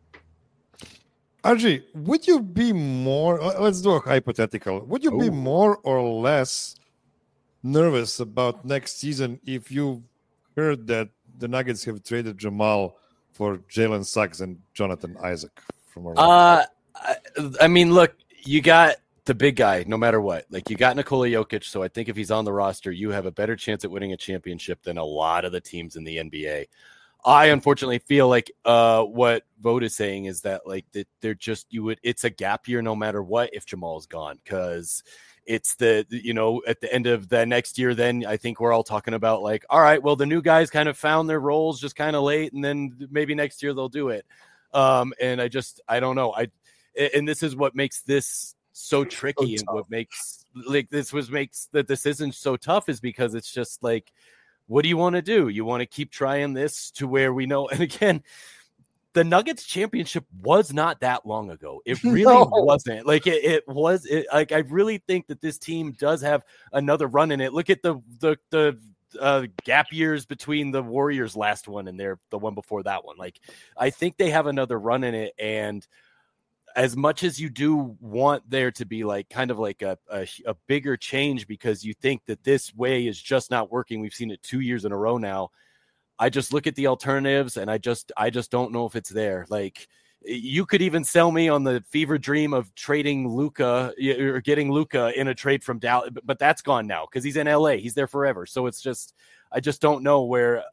R G, would you be more, let's do a hypothetical, would you be Ooh. more or less nervous about next season if you heard that the Nuggets have traded Jamal for Jalen Suggs and Jonathan Isaac from Orlando? Uh, I, I mean, look, you got the big guy no matter what. Like, you got Nikola Jokic, so I think if he's on the roster, you have a better chance at winning a championship than a lot of the teams in the N B A. I unfortunately feel like uh, what Vogt is saying is that like that they're just you would it's a gap year no matter what if Jamal's gone, because it's the you know at the end of the next year, then I think we're all talking about like, all right, well the new guys kind of found their roles just kind of late, and then maybe next year they'll do it. Um, and I just I don't know I and this is what makes this so tricky, so and what makes like this was makes the decision so tough is because it's just like, what do you want to do? You want to keep trying this to where we know? And again, the Nuggets championship was not that long ago. It really No. wasn't. Like it, it was. It, like I really think that this team does have another run in it. Look at the the the uh, gap years between the Warriors' last one and their the one before that one. Like I think they have another run in it, and as much as you do want there to be like kind of like a, a, a bigger change because you think that this way is just not working. We've seen it two years in a row now. I just look at the alternatives and I just, I just don't know if it's there. Like you could even sell me on the fever dream of trading Luka or getting Luka in a trade from Dallas, but that's gone now because he's in L A. He's there forever. So it's just, I just don't know where.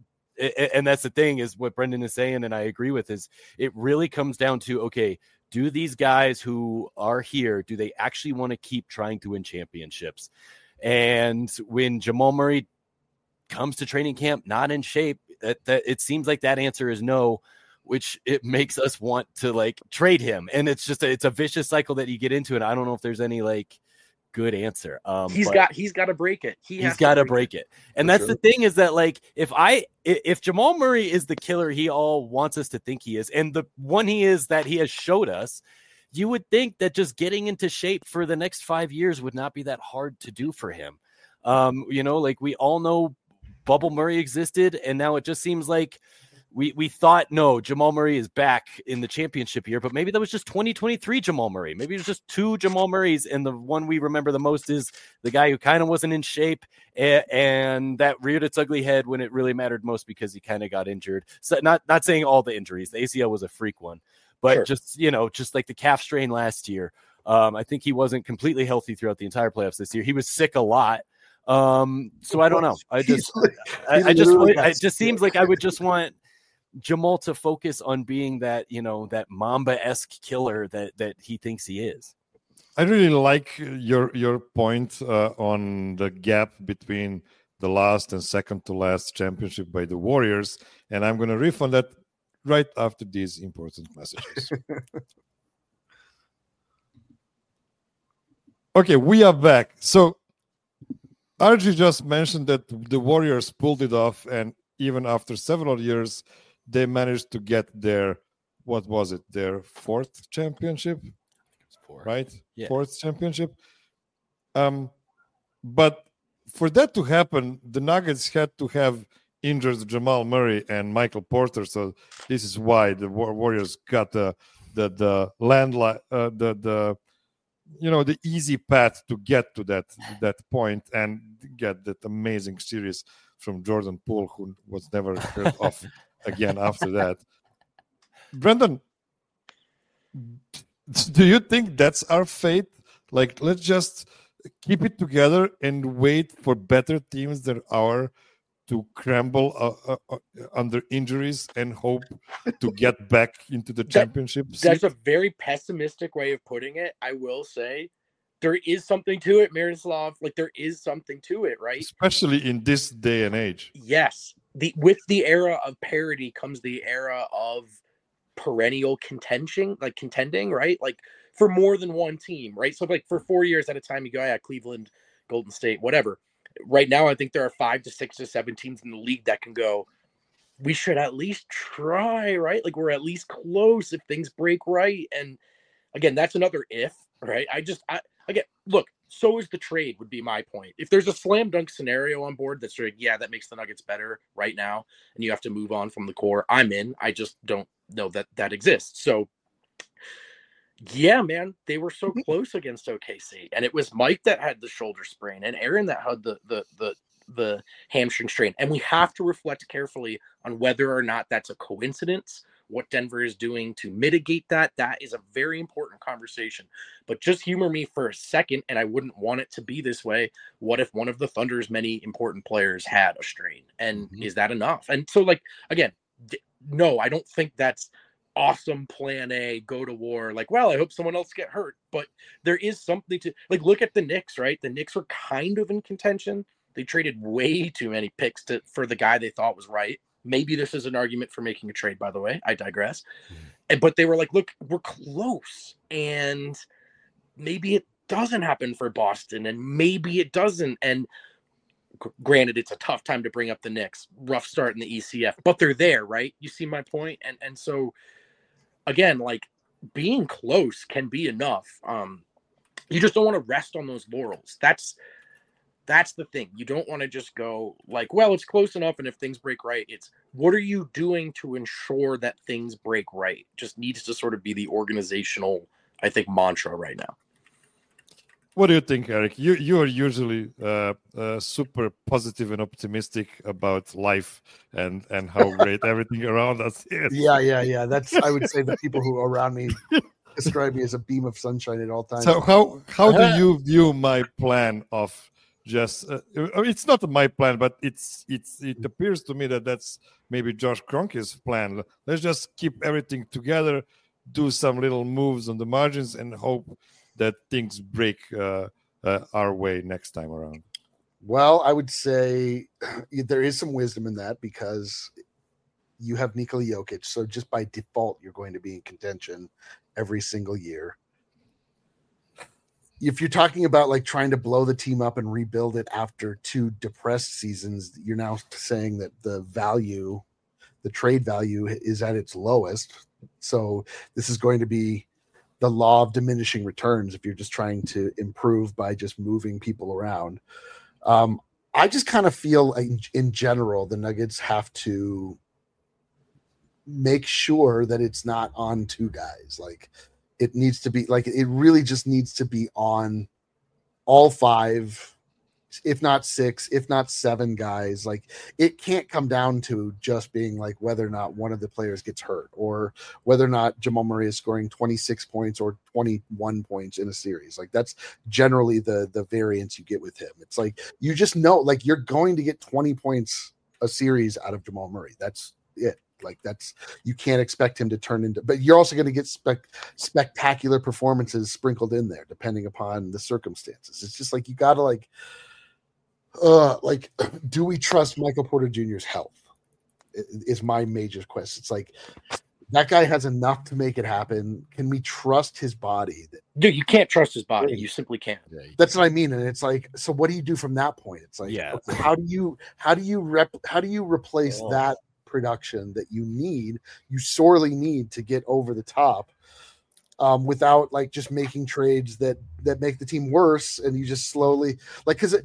And that's the thing is what Brendan is saying. And I agree with is it really comes down to, okay, do these guys who are here, do they actually want to keep trying to win championships? And when Jamal Murray comes to training camp not in shape, that, that it seems like that answer is no, which it makes us want to like trade him. And it's just a, it's a vicious cycle that you get into. And I don't know if there's any like good answer. Um, he's got he's got to break it. He he's got to break it. it. And that's sure. the thing is that like if I if Jamal Murray is the killer he all wants us to think he is, and the one he is that he has showed us, you would think that just getting into shape for the next five years would not be that hard to do for him. Um, you know, like we all know Bubble Murray existed, and now it just seems like we we thought, no, Jamal Murray is back in the championship year, but maybe that was just twenty twenty-three Jamal Murray. Maybe it was just two Jamal Murrays, and the one we remember the most is the guy who kind of wasn't in shape and, and that reared its ugly head when it really mattered most because he kind of got injured. So not not saying all the injuries. The A C L was a freak one, but Sure. just, you know, just like the calf strain last year. Um, I think he wasn't completely healthy throughout the entire playoffs this year. He was sick a lot. Um, so I don't know. I just, He's- I, he's I just, literally it just seems like I would just want, Jamal to focus on being that, you know, that Mamba-esque killer that that he thinks he is. I really like your your point uh, on the gap between the last and second to last championship by the Warriors, and I'm going to riff on that right after these important messages. Okay, we are back. So R G just mentioned that the Warriors pulled it off, and even after several years, they managed to get their, what was it, their fourth championship? Four. Right? Yeah. Fourth championship. Um, but for that to happen, the Nuggets had to have injured Jamal Murray and Michael Porter. So this is why the Warriors got the the the landline, uh, the the you know the easy path to get to that that point and get that amazing series from Jordan Poole, who was never heard of again after that. Brendan, do you think that's our fate? Like, let's just keep it together and wait for better teams than our to crumble uh, uh, uh, under injuries and hope to get back into the championship that, seat? That's a very pessimistic way of putting it. I will say there is something to it, Miroslav. Like, there is something to it, right? Especially in this day and age. Yes. The with the era of parity comes the era of perennial contention, like contending, right? Like for more than one team, right? So like for four years at a time, you go, yeah, Cleveland, Golden State, whatever. Right now, I think there are five to six to seven teams in the league that can go, we should at least try, right? Like we're at least close if things break right. And again, that's another if, right? I just, I again, look, so is the trade would be my point. If there's a slam dunk scenario on board that's like, yeah, that makes the Nuggets better right now, and you have to move on from the core, I'm in. I just don't know that that exists. So yeah, man, they were so close against O K C, and it was Mike that had the shoulder sprain and Aaron that had the the the the hamstring strain. And we have to reflect carefully on whether or not that's a coincidence, what Denver is doing to mitigate that. That is a very important conversation. But just humor me for a second, and I wouldn't want it to be this way. What if one of the Thunder's many important players had a strain? And mm-hmm. is that enough? And so, like, again, d- no, I don't think that's awesome plan A, go to war. Like, well, I hope someone else get hurt. But there is something to, like, look at the Knicks, right? The Knicks were kind of in contention. They traded way too many picks to for the guy they thought was right. Maybe this is an argument for making a trade, by the way. I digress. Mm. And, but they were like, look, we're close. And maybe it doesn't happen for Boston. And maybe it doesn't. And g- granted, it's a tough time to bring up the Knicks. Rough start in the E C F. But they're there, right? You see my point? And and so, again, like, being close can be enough. Um, you just don't want to rest on those laurels. That's That's the thing. You don't want to just go like, well, it's close enough. And if things break right, it's what are you doing to ensure that things break right? Just needs to sort of be the organizational, I think, mantra right now. What do you think, Eric? You you are usually uh, uh, super positive and optimistic about life and, and how great everything around us is. Yeah, yeah, yeah. That's I would say the people who are around me describe me as a beam of sunshine at all times. So how how do you view my plan of just uh, it's not my plan, but it's it's it appears to me that that's maybe Josh Kroenke's plan. Let's just keep everything together, do some little moves on the margins, and hope that things break uh, uh, our way next time around. Well, I would say there is some wisdom in that because you have Nikola Jokic, so just by default you're going to be in contention every single year. If you're talking about like trying to blow the team up and rebuild it after two depressed seasons, you're now saying that the value, the trade value is at its lowest. So this is going to be the law of diminishing returns if you're just trying to improve by just moving people around. Um, I just kind of feel like in, in general, the Nuggets have to make sure that it's not on two guys. Like, it needs to be like, it really just needs to be on all five, if not six, if not seven guys. Like, it can't come down to just being like whether or not one of the players gets hurt or whether or not Jamal Murray is scoring twenty-six points or twenty-one points in a series. Like, that's generally the, the variance you get with him. It's like, you just know, like, you're going to get twenty points a series out of Jamal Murray. That's it. Like that's you can't expect him to turn into. But you're also going to get spec, spectacular performances sprinkled in there, depending upon the circumstances. It's just like you got to like, uh, like, do we trust Michael Porter Junior's health? Is my major question. It's like that guy has enough to make it happen. Can we trust his body? Dude, you can't trust his body. You simply can't. That's what I mean. And it's like, so what do you do from that point? It's like, yeah. okay, how do you how do you rep how do you replace oh. that production that you need, you sorely need to get over the top, um, without like just making trades that that make the team worse, and you just slowly like because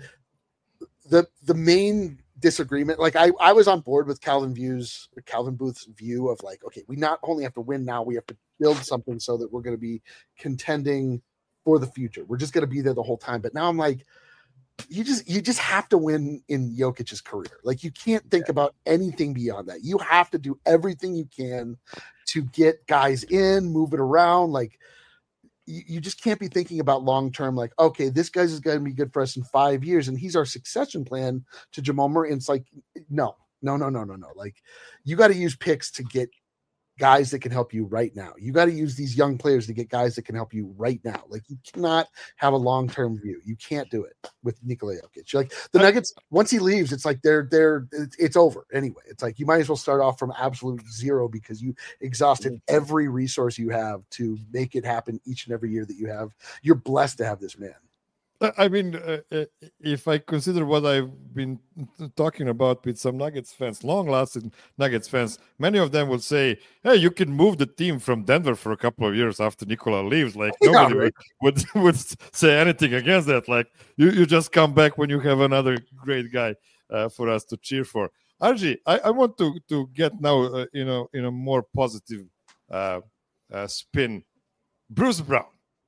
the the main disagreement, like I, I was on board with Calvin views Calvin Booth's view of like, okay, we not only have to win now, we have to build something so that we're going to be contending for the future. We're just going to be there the whole time. But now I'm like, you just you just have to win in Jokic's career. Like you can't think yeah. about anything beyond that. You have to do everything you can to get guys in, move it around. Like you, you just can't be thinking about long term. Like, okay, this guy's is going to be good for us in five years, and he's our succession plan to Jamal Murray. And it's like, no, no, no, no, no, no. Like you got to use picks to get guys that can help you right now. You got to use these young players to get guys that can help you right now. Like you cannot have a long-term view. You can't do it with Nikola Jokic. Like the Nuggets, once he leaves, it's like they're they're it's, it's over anyway. It's like you might as well start off from absolute zero because you exhausted every resource you have to make it happen each and every year that you have. You're blessed to have this man. I mean, uh, if I consider what I've been talking about with some Nuggets fans, long-lasting Nuggets fans, many of them will say, hey, you can move the team from Denver for a couple of years after Nikola leaves. Like, nobody yeah, right. would, would, would say anything against that. Like, you, you just come back when you have another great guy uh, for us to cheer for. Arji, I, I want to, to get now, uh, you know, in a more positive uh, uh, spin. Bruce Brown.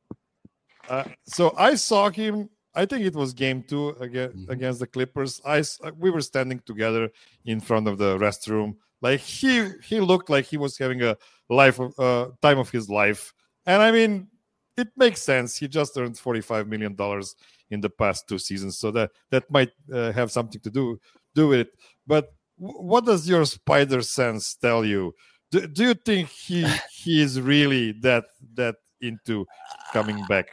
Uh, so I saw him. I think it was game two against, mm-hmm. against the Clippers. I we were standing together in front of the restroom. Like he he looked like he was having a life of, uh, time of his life. And I mean, it makes sense. He just earned forty-five million dollars in the past two seasons, so that that might uh, have something to do do with it. But w- what does your spider sense tell you? Do, do you think he he is really that that into coming back?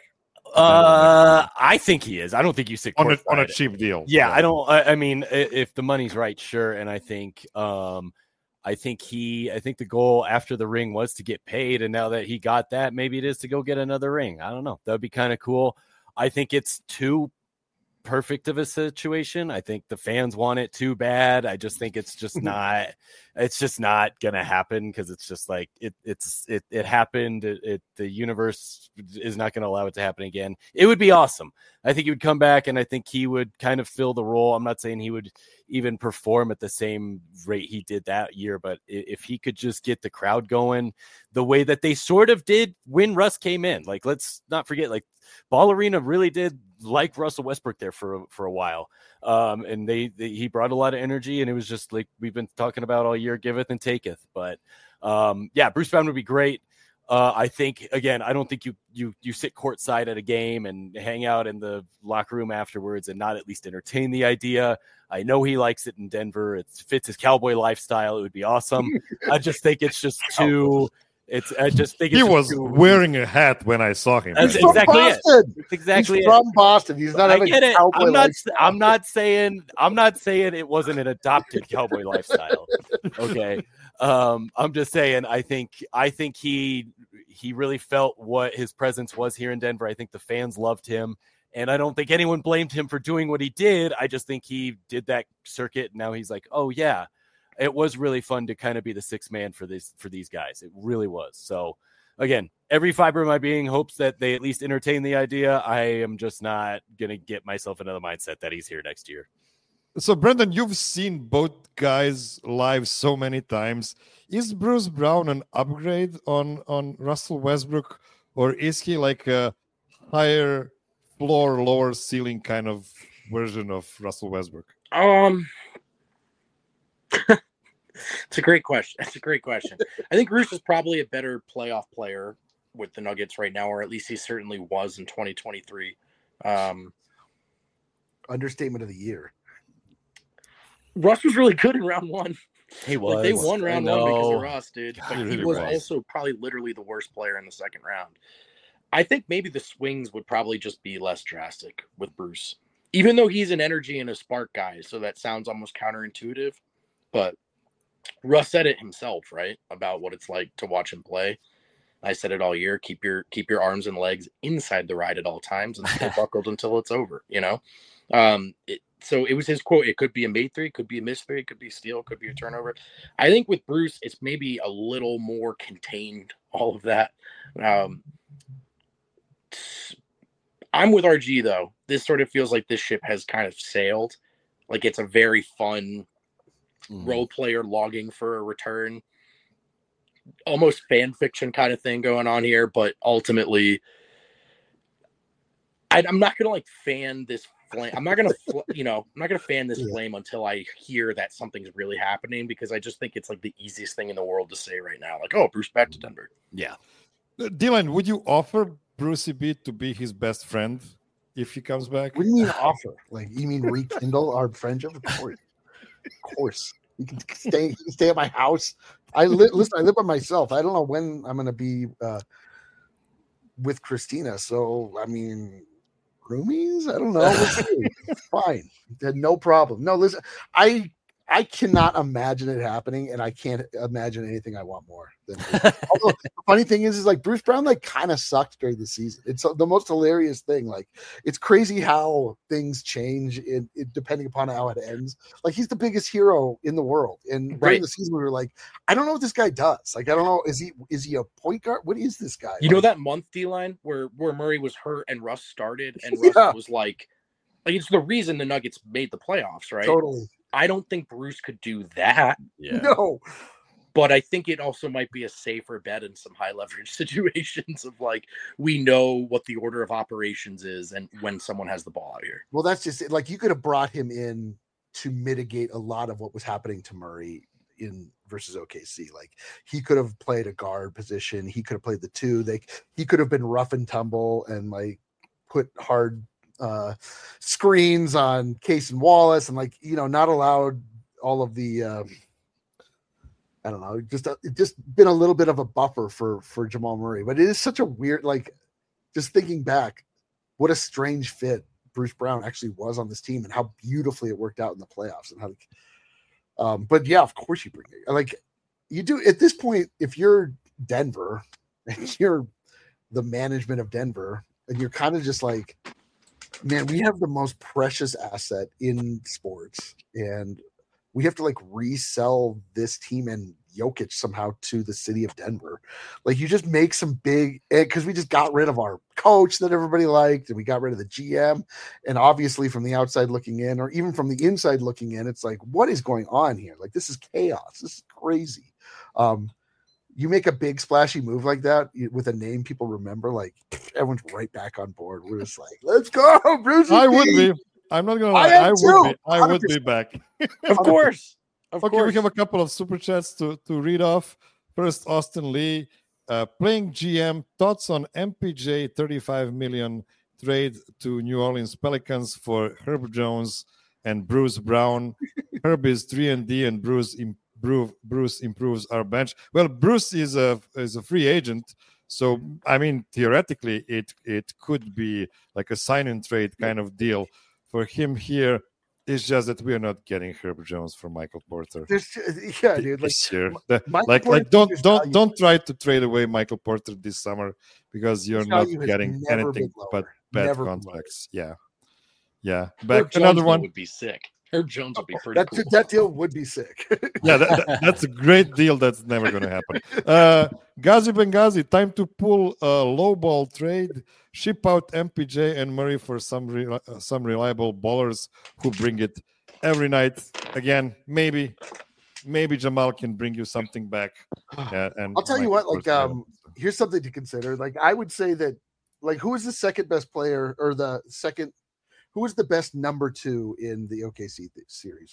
Uh, I think he is. I don't think you sit on a, on a cheap deal. Yeah, yeah. I don't. I, I mean, if the money's right, sure. And I think, um, I think he. I think the goal after the ring was to get paid, and now that he got that, maybe it is to go get another ring. I don't know. That would be kind of cool. I think it's too perfect of a situation. I think the fans want it too bad. I just think it's just not. It's just not gonna happen because it's just like it. It's it. It happened. It, it. The universe is not going to allow it to happen again. It would be awesome. I think he would come back, and I think he would kind of fill the role. I'm not saying he would even perform at the same rate he did that year, but if he could just get the crowd going the way that they sort of did when Russ came in, like let's not forget, like Ball Arena really did like Russell Westbrook there for for a while. Um, and they, they he brought a lot of energy, and it was just like we've been talking about all year, giveth and taketh. But um, yeah, Bruce Brown would be great. Uh, I think again, I don't think you you you sit courtside at a game and hang out in the locker room afterwards and not at least entertain the idea. I know he likes it in Denver. It fits his cowboy lifestyle. It would be awesome. I just think it's just too. It's. I just think it's he was too, wearing a hat when I saw him. That's He's exactly from Boston. it. That's exactly He's it. from Boston. He's not. I having get it. cowboy I'm not. lifestyle. I'm not saying. I'm not saying it wasn't an adopted cowboy lifestyle. Okay. Um, I'm just saying. I think. I think he. He really felt what his presence was here in Denver. I think the fans loved him, and I don't think anyone blamed him for doing what he did. I just think he did that circuit. And now he's like, oh yeah, it was really fun to kind of be the sixth man for this for these guys. It really was. So. Again, every fiber of my being hopes that they at least entertain the idea. I am just not going to get myself into the mindset that he's here next year. So, Brendan, you've seen both guys live so many times. Is Bruce Brown an upgrade on, on Russell Westbrook, or is he like a higher floor, lower ceiling kind of version of Russell Westbrook? Um... It's a great question. It's a great question. I think Bruce is probably a better playoff player with the Nuggets right now, or at least he certainly was in twenty twenty-three. Um, Understatement of the year. Russ was really good in round one. He was. Like they won I round one because of know. Russ, dude. God, but he he really was was. also probably literally the worst player in the second round. I think maybe the swings would probably just be less drastic with Bruce, even though he's an energy and a spark guy. So that sounds almost counterintuitive, but Russ said it himself, right? About what it's like to watch him play. I said it all year. Keep your keep your arms and legs inside the ride at all times and stay buckled until it's over. You know, um, it, so it was his quote. It could be a made three, could be a missed three, could be a steal, could be a turnover. I think with Bruce, it's maybe a little more contained. All of that. Um, I'm with R G though. This sort of feels like this ship has kind of sailed. Like it's a very fun mm. role player logging for a return. Almost fan fiction kind of thing going on here, but ultimately, I, I'm not gonna like fan this flame. I'm not gonna, you know, I'm not gonna fan this yeah. flame until I hear that something's really happening because I just think it's like the easiest thing in the world to say right now. Like, oh, Bruce back to Denver. Yeah, Dylan, would you offer Brucey B to be his best friend if he comes back? What do you mean offer? Like you mean rekindle our friendship? Of course, of course. You can stay. You can stay at my house. I li- listen. I live by myself. I don't know when I'm going to be uh, with Christina. So I mean, roomies. I don't know. We'll see. Fine. No problem. No, listen. I I cannot imagine it happening, and I can't imagine anything I want more than. Although, the funny thing is, is like Bruce Brown like kind of sucked during the season. It's the most hilarious thing. Like it's crazy how things change in, in depending upon how it ends. Like he's the biggest hero in the world, and during right. the season we were like, I don't know what this guy does. Like I don't know, is he is he a point guard? What is this guy? You like, know that month D line where where Murray was hurt and Russ started, and Russ yeah. was like, like it's the reason the Nuggets made the playoffs, right? Totally. I don't think Bruce could do that. Yeah. No. But I think it also might be a safer bet in some high leverage situations of like, we know what the order of operations is and when someone has the ball out here. Well, that's just it. Like you could have brought him in to mitigate a lot of what was happening to Murray in versus O K C. Like he could have played a guard position. He could have played the two. They, he could have been rough and tumble and like put hard uh screens on Case and Wallace and like you know not allowed all of the uh, I don't know just uh, just been a little bit of a buffer for for Jamal Murray. But it is such a weird, like just thinking back, what a strange fit Bruce Brown actually was on this team and how beautifully it worked out in the playoffs and how um but yeah, of course you bring it. Like you do at this point. If you're Denver and you're the management of Denver and you're kind of just like, man, we have the most precious asset in sports, and we have to like resell this team and Jokic somehow to the city of Denver. Like you just make some big, because we just got rid of our coach that everybody liked, and we got rid of the G M. And obviously, from the outside looking in, or even from the inside looking in, it's like, what is going on here? Like this is chaos. This is crazy. Um, You make a big splashy move like that with a name people remember, like everyone's right back on board. We're just like, let's go, Bruce. I would be. I'm not gonna lie. I, I would be. I would be back. Of course. Of okay, course. we have a couple of super chats to, to read off. First, Austin Lee, uh, playing G M, thoughts on M P J thirty-five million trade to New Orleans Pelicans for Herb Jones and Bruce Brown. Herb is three and D, and Bruce improve, Bruce improves our bench. Well, Bruce is a is a free agent, so I mean theoretically it it could be like a sign and trade kind of deal for him here. It's just that we are not getting Herb Jones for Michael Porter. There's, yeah, dude. Like, this year. The, Michael like, Porter like, don't, don't, value- don't try to trade away Michael Porter this summer because you're His not value has getting never anything been lower. but bad Never been contracts. Yeah, yeah. Herb Back Jones another though one. would be sick. Herb Jones would be pretty that, cool. that deal would be sick. Yeah, that, that- that's a great deal. That's never going to happen. Uh, Ghazi Benghazi, time to pull a low ball trade. Ship out M P J and Murray for some re- uh, some reliable ballers who bring it every night. Again, maybe, maybe Jamal can bring you something back. Uh, and I'll tell you Michael what, like, Porter- um, here's something to consider. Like, I would say that, like, who is the second best player or the second, who is the best number two in the O K C th- series?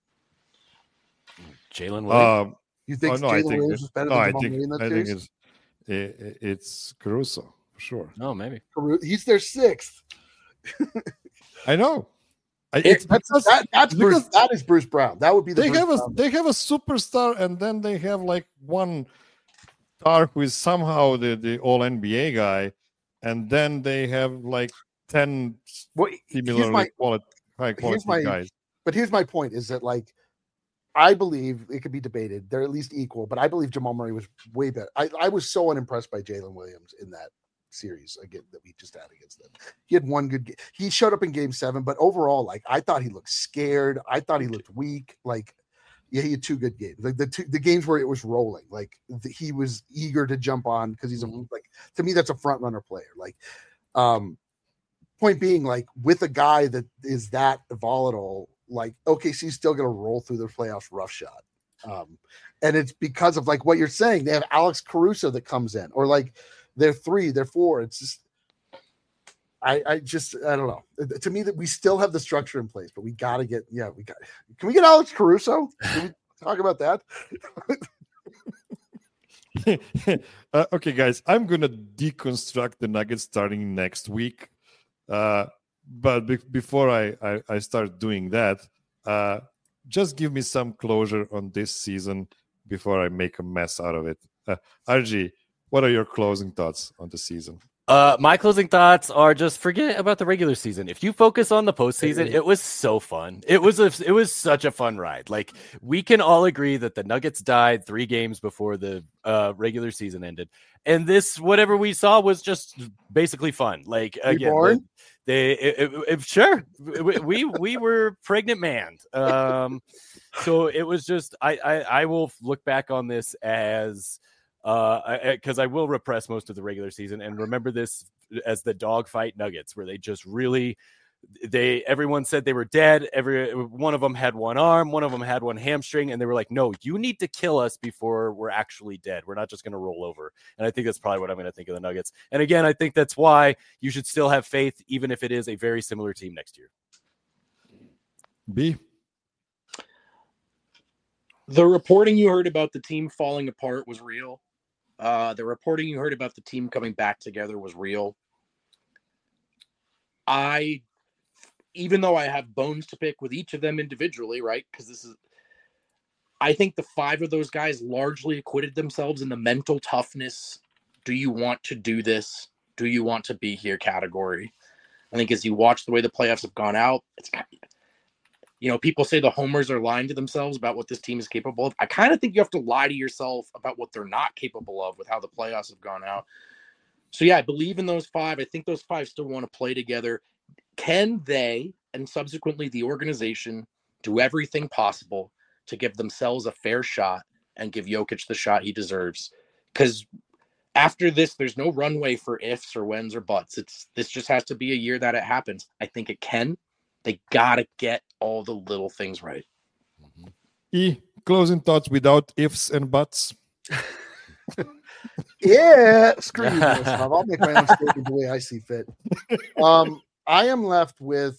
Jalen Williams. Um, You think oh, no, I Jalen think Williams it- is better no, than I Jamal think, Murray in that I series? think it's it, it's Caruso for sure. oh, maybe. Caru- He's their sixth. I know, I, it's That's because that, that's Bruce. because That is Bruce Brown. That would be the they Bruce have a Brown. they have a superstar, and then they have like one star who is somehow the the all N B A guy, and then they have like ten Well, here's similarly my- quality, high quality here's my- guys. But here's my point: is that like I believe it could be debated. They're at least equal, but I believe Jamal Murray was way better. I, I was so unimpressed by Jalen Williams in that series again that we just had against them. He had one good game. He showed up in game seven, but overall, like I thought he looked scared. I thought he looked weak. Like, yeah, he had two good games. Like the two the games where it was rolling, like the, he was eager to jump on because he's a like to me that's a front runner player. Like, um, point being, like with a guy that is that volatile, like O K C's still going to roll through the playoffs roughshod. Um, and it's because of like what you're saying. They have Alex Caruso that comes in, or like they're three, they're four. It's just, I, I just, I don't know. To me, that we still have the structure in place, but we got to get, yeah, we got. Can we get Alex Caruso? Can we talk about that? uh, okay, guys, I'm gonna deconstruct the Nuggets starting next week. Uh, but be- before I, I I start doing that, uh, just give me some closure on this season before I make a mess out of it. Uh, R G, what are your closing thoughts on the season? Uh, my closing thoughts are just forget about the regular season. If you focus on the postseason, it was so fun. It was a, it was such a fun ride. Like we can all agree that the Nuggets died three games before the uh, regular season ended, and this whatever we saw was just basically fun. Like again, the, they it, it, it, sure we, we we were pregnant man. Um, so it was just I, I I will look back on this as. Uh, because I, I will repress most of the regular season and remember this as the dogfight Nuggets, where they just really, they everyone said they were dead. Every one of them had one arm, one of them had one hamstring, and they were like, "No, you need to kill us before we're actually dead. We're not just going to roll over." And I think that's probably what I'm going to think of the Nuggets. And again, I think that's why you should still have faith, even if it is a very similar team next year. B. The reporting you heard about the team falling apart was real. Uh, the reporting you heard about the team coming back together was real. I, even though I have bones to pick with each of them individually, right? Because this is, I think the five of those guys largely acquitted themselves in the mental toughness. Do you want to do this? Do you want to be here category? I think as you watch the way the playoffs have gone out, it's kind of, you know, people say the homers are lying to themselves about what this team is capable of. I kind of think you have to lie to yourself about what they're not capable of with how the playoffs have gone out. So, yeah, I believe in those five. I think those five still want to play together. Can they, and subsequently the organization, do everything possible to give themselves a fair shot and give Jokic the shot he deserves? Because after this, there's no runway for ifs or whens or buts. It's this just has to be a year that it happens. I think it can. They got to get all the little things right. E, closing thoughts without ifs and buts. Yeah, screw you, I'll make my own statement the way I see fit. Um, I am left with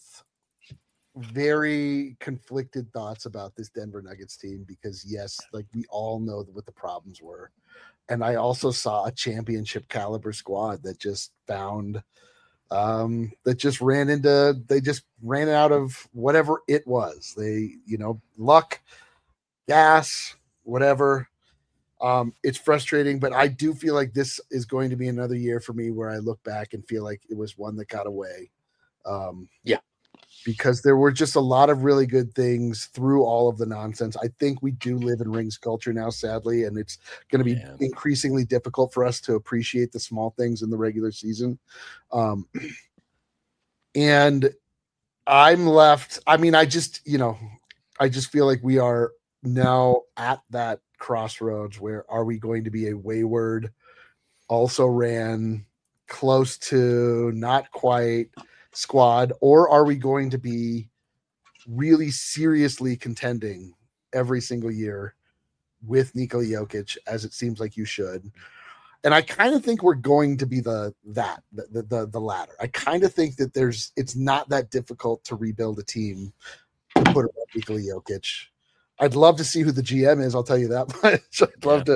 very conflicted thoughts about this Denver Nuggets team because, yes, like we all know what the problems were. And I also saw a championship caliber squad that just found – um that just ran into they just ran out of whatever it was. They, you know, luck, gas, whatever. Um it's frustrating, but I do feel like this is going to be another year for me where I look back and feel like it was one that got away. Um yeah, because there were just a lot of really good things through all of the nonsense. I think we do live in rings culture now, sadly, and it's going to be yeah. increasingly difficult for us to appreciate the small things in the regular season. Um, and I'm left, I mean, I just, you know, I just feel like we are now at that crossroads where are we going to be a wayward, also ran close to not quite squad, or are we going to be really seriously contending every single year with Nikola Jokic, as it seems like you should? And I kind of think we're going to be the that the the, the latter. I kind of think that there's it's not that difficult to rebuild a team to put around Nikola Jokic. I'd love to see who the G M is. I'll tell you that much. I'd love yeah. to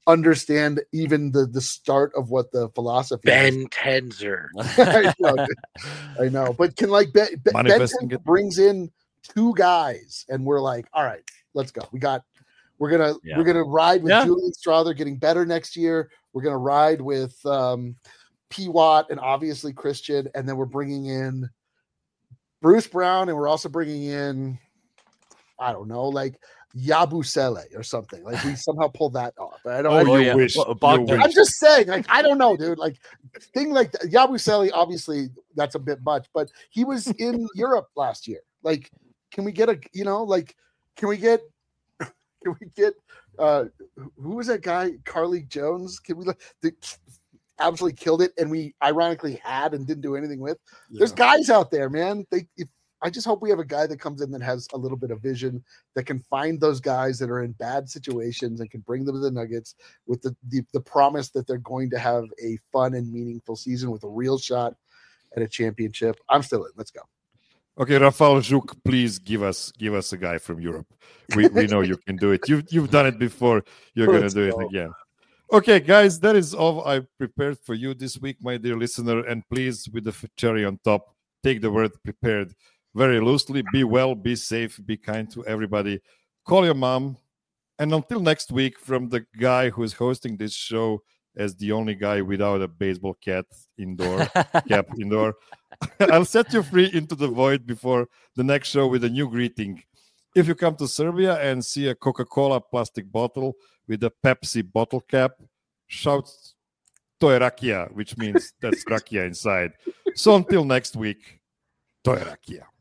understand even the the start of what the philosophy is. Ben Tenzer. I know, dude. I know, but can like Ben, Ben Manifesting Tenzer it. brings in two guys, and we're like, all right, let's go. We got, we're gonna Yeah. we're gonna ride with Yeah. Julian Strother getting better next year. We're gonna ride with um, P. Watt and obviously Christian, and then we're bringing in Bruce Brown, and we're also bringing in, I don't know, like Yabusele or something. Like we somehow pull that off. I don't. Oh, I, you yeah. wish. Well, You Bogdan- wish. I'm just saying, like, I don't know, dude. Like, thing like that. Yabusele, obviously, that's a bit much, but he was in Europe last year. Like, can we get a, you know, like, can we get, can we get, uh, who was that guy? Carly Jones? Can we, the, absolutely killed it, and we ironically had and didn't do anything with. There's guys out there, man. They, if, I just hope we have a guy that comes in that has a little bit of vision, that can find those guys that are in bad situations and can bring them to the Nuggets with the, the, the promise that they're going to have a fun and meaningful season with a real shot at a championship. I'm still in. Let's go. Okay, Rafał Żuk, please give us give us a guy from Europe. We we know you can do it. You've you've done it before. You're gonna Let's do go. it again. Okay, guys, that is all I prepared for you this week, my dear listener. And please, with the cherry on top, take the word prepared very loosely. Be well, be safe, be kind to everybody. Call your mom. And until next week, from the guy who is hosting this show as the only guy without a baseball cap indoor, cap indoor, I'll set you free into the void before the next show with a new greeting. If you come to Serbia and see a Coca-Cola plastic bottle with a Pepsi bottle cap, shout, to je rakija, which means that's rakia inside. So until next week, to je rakija.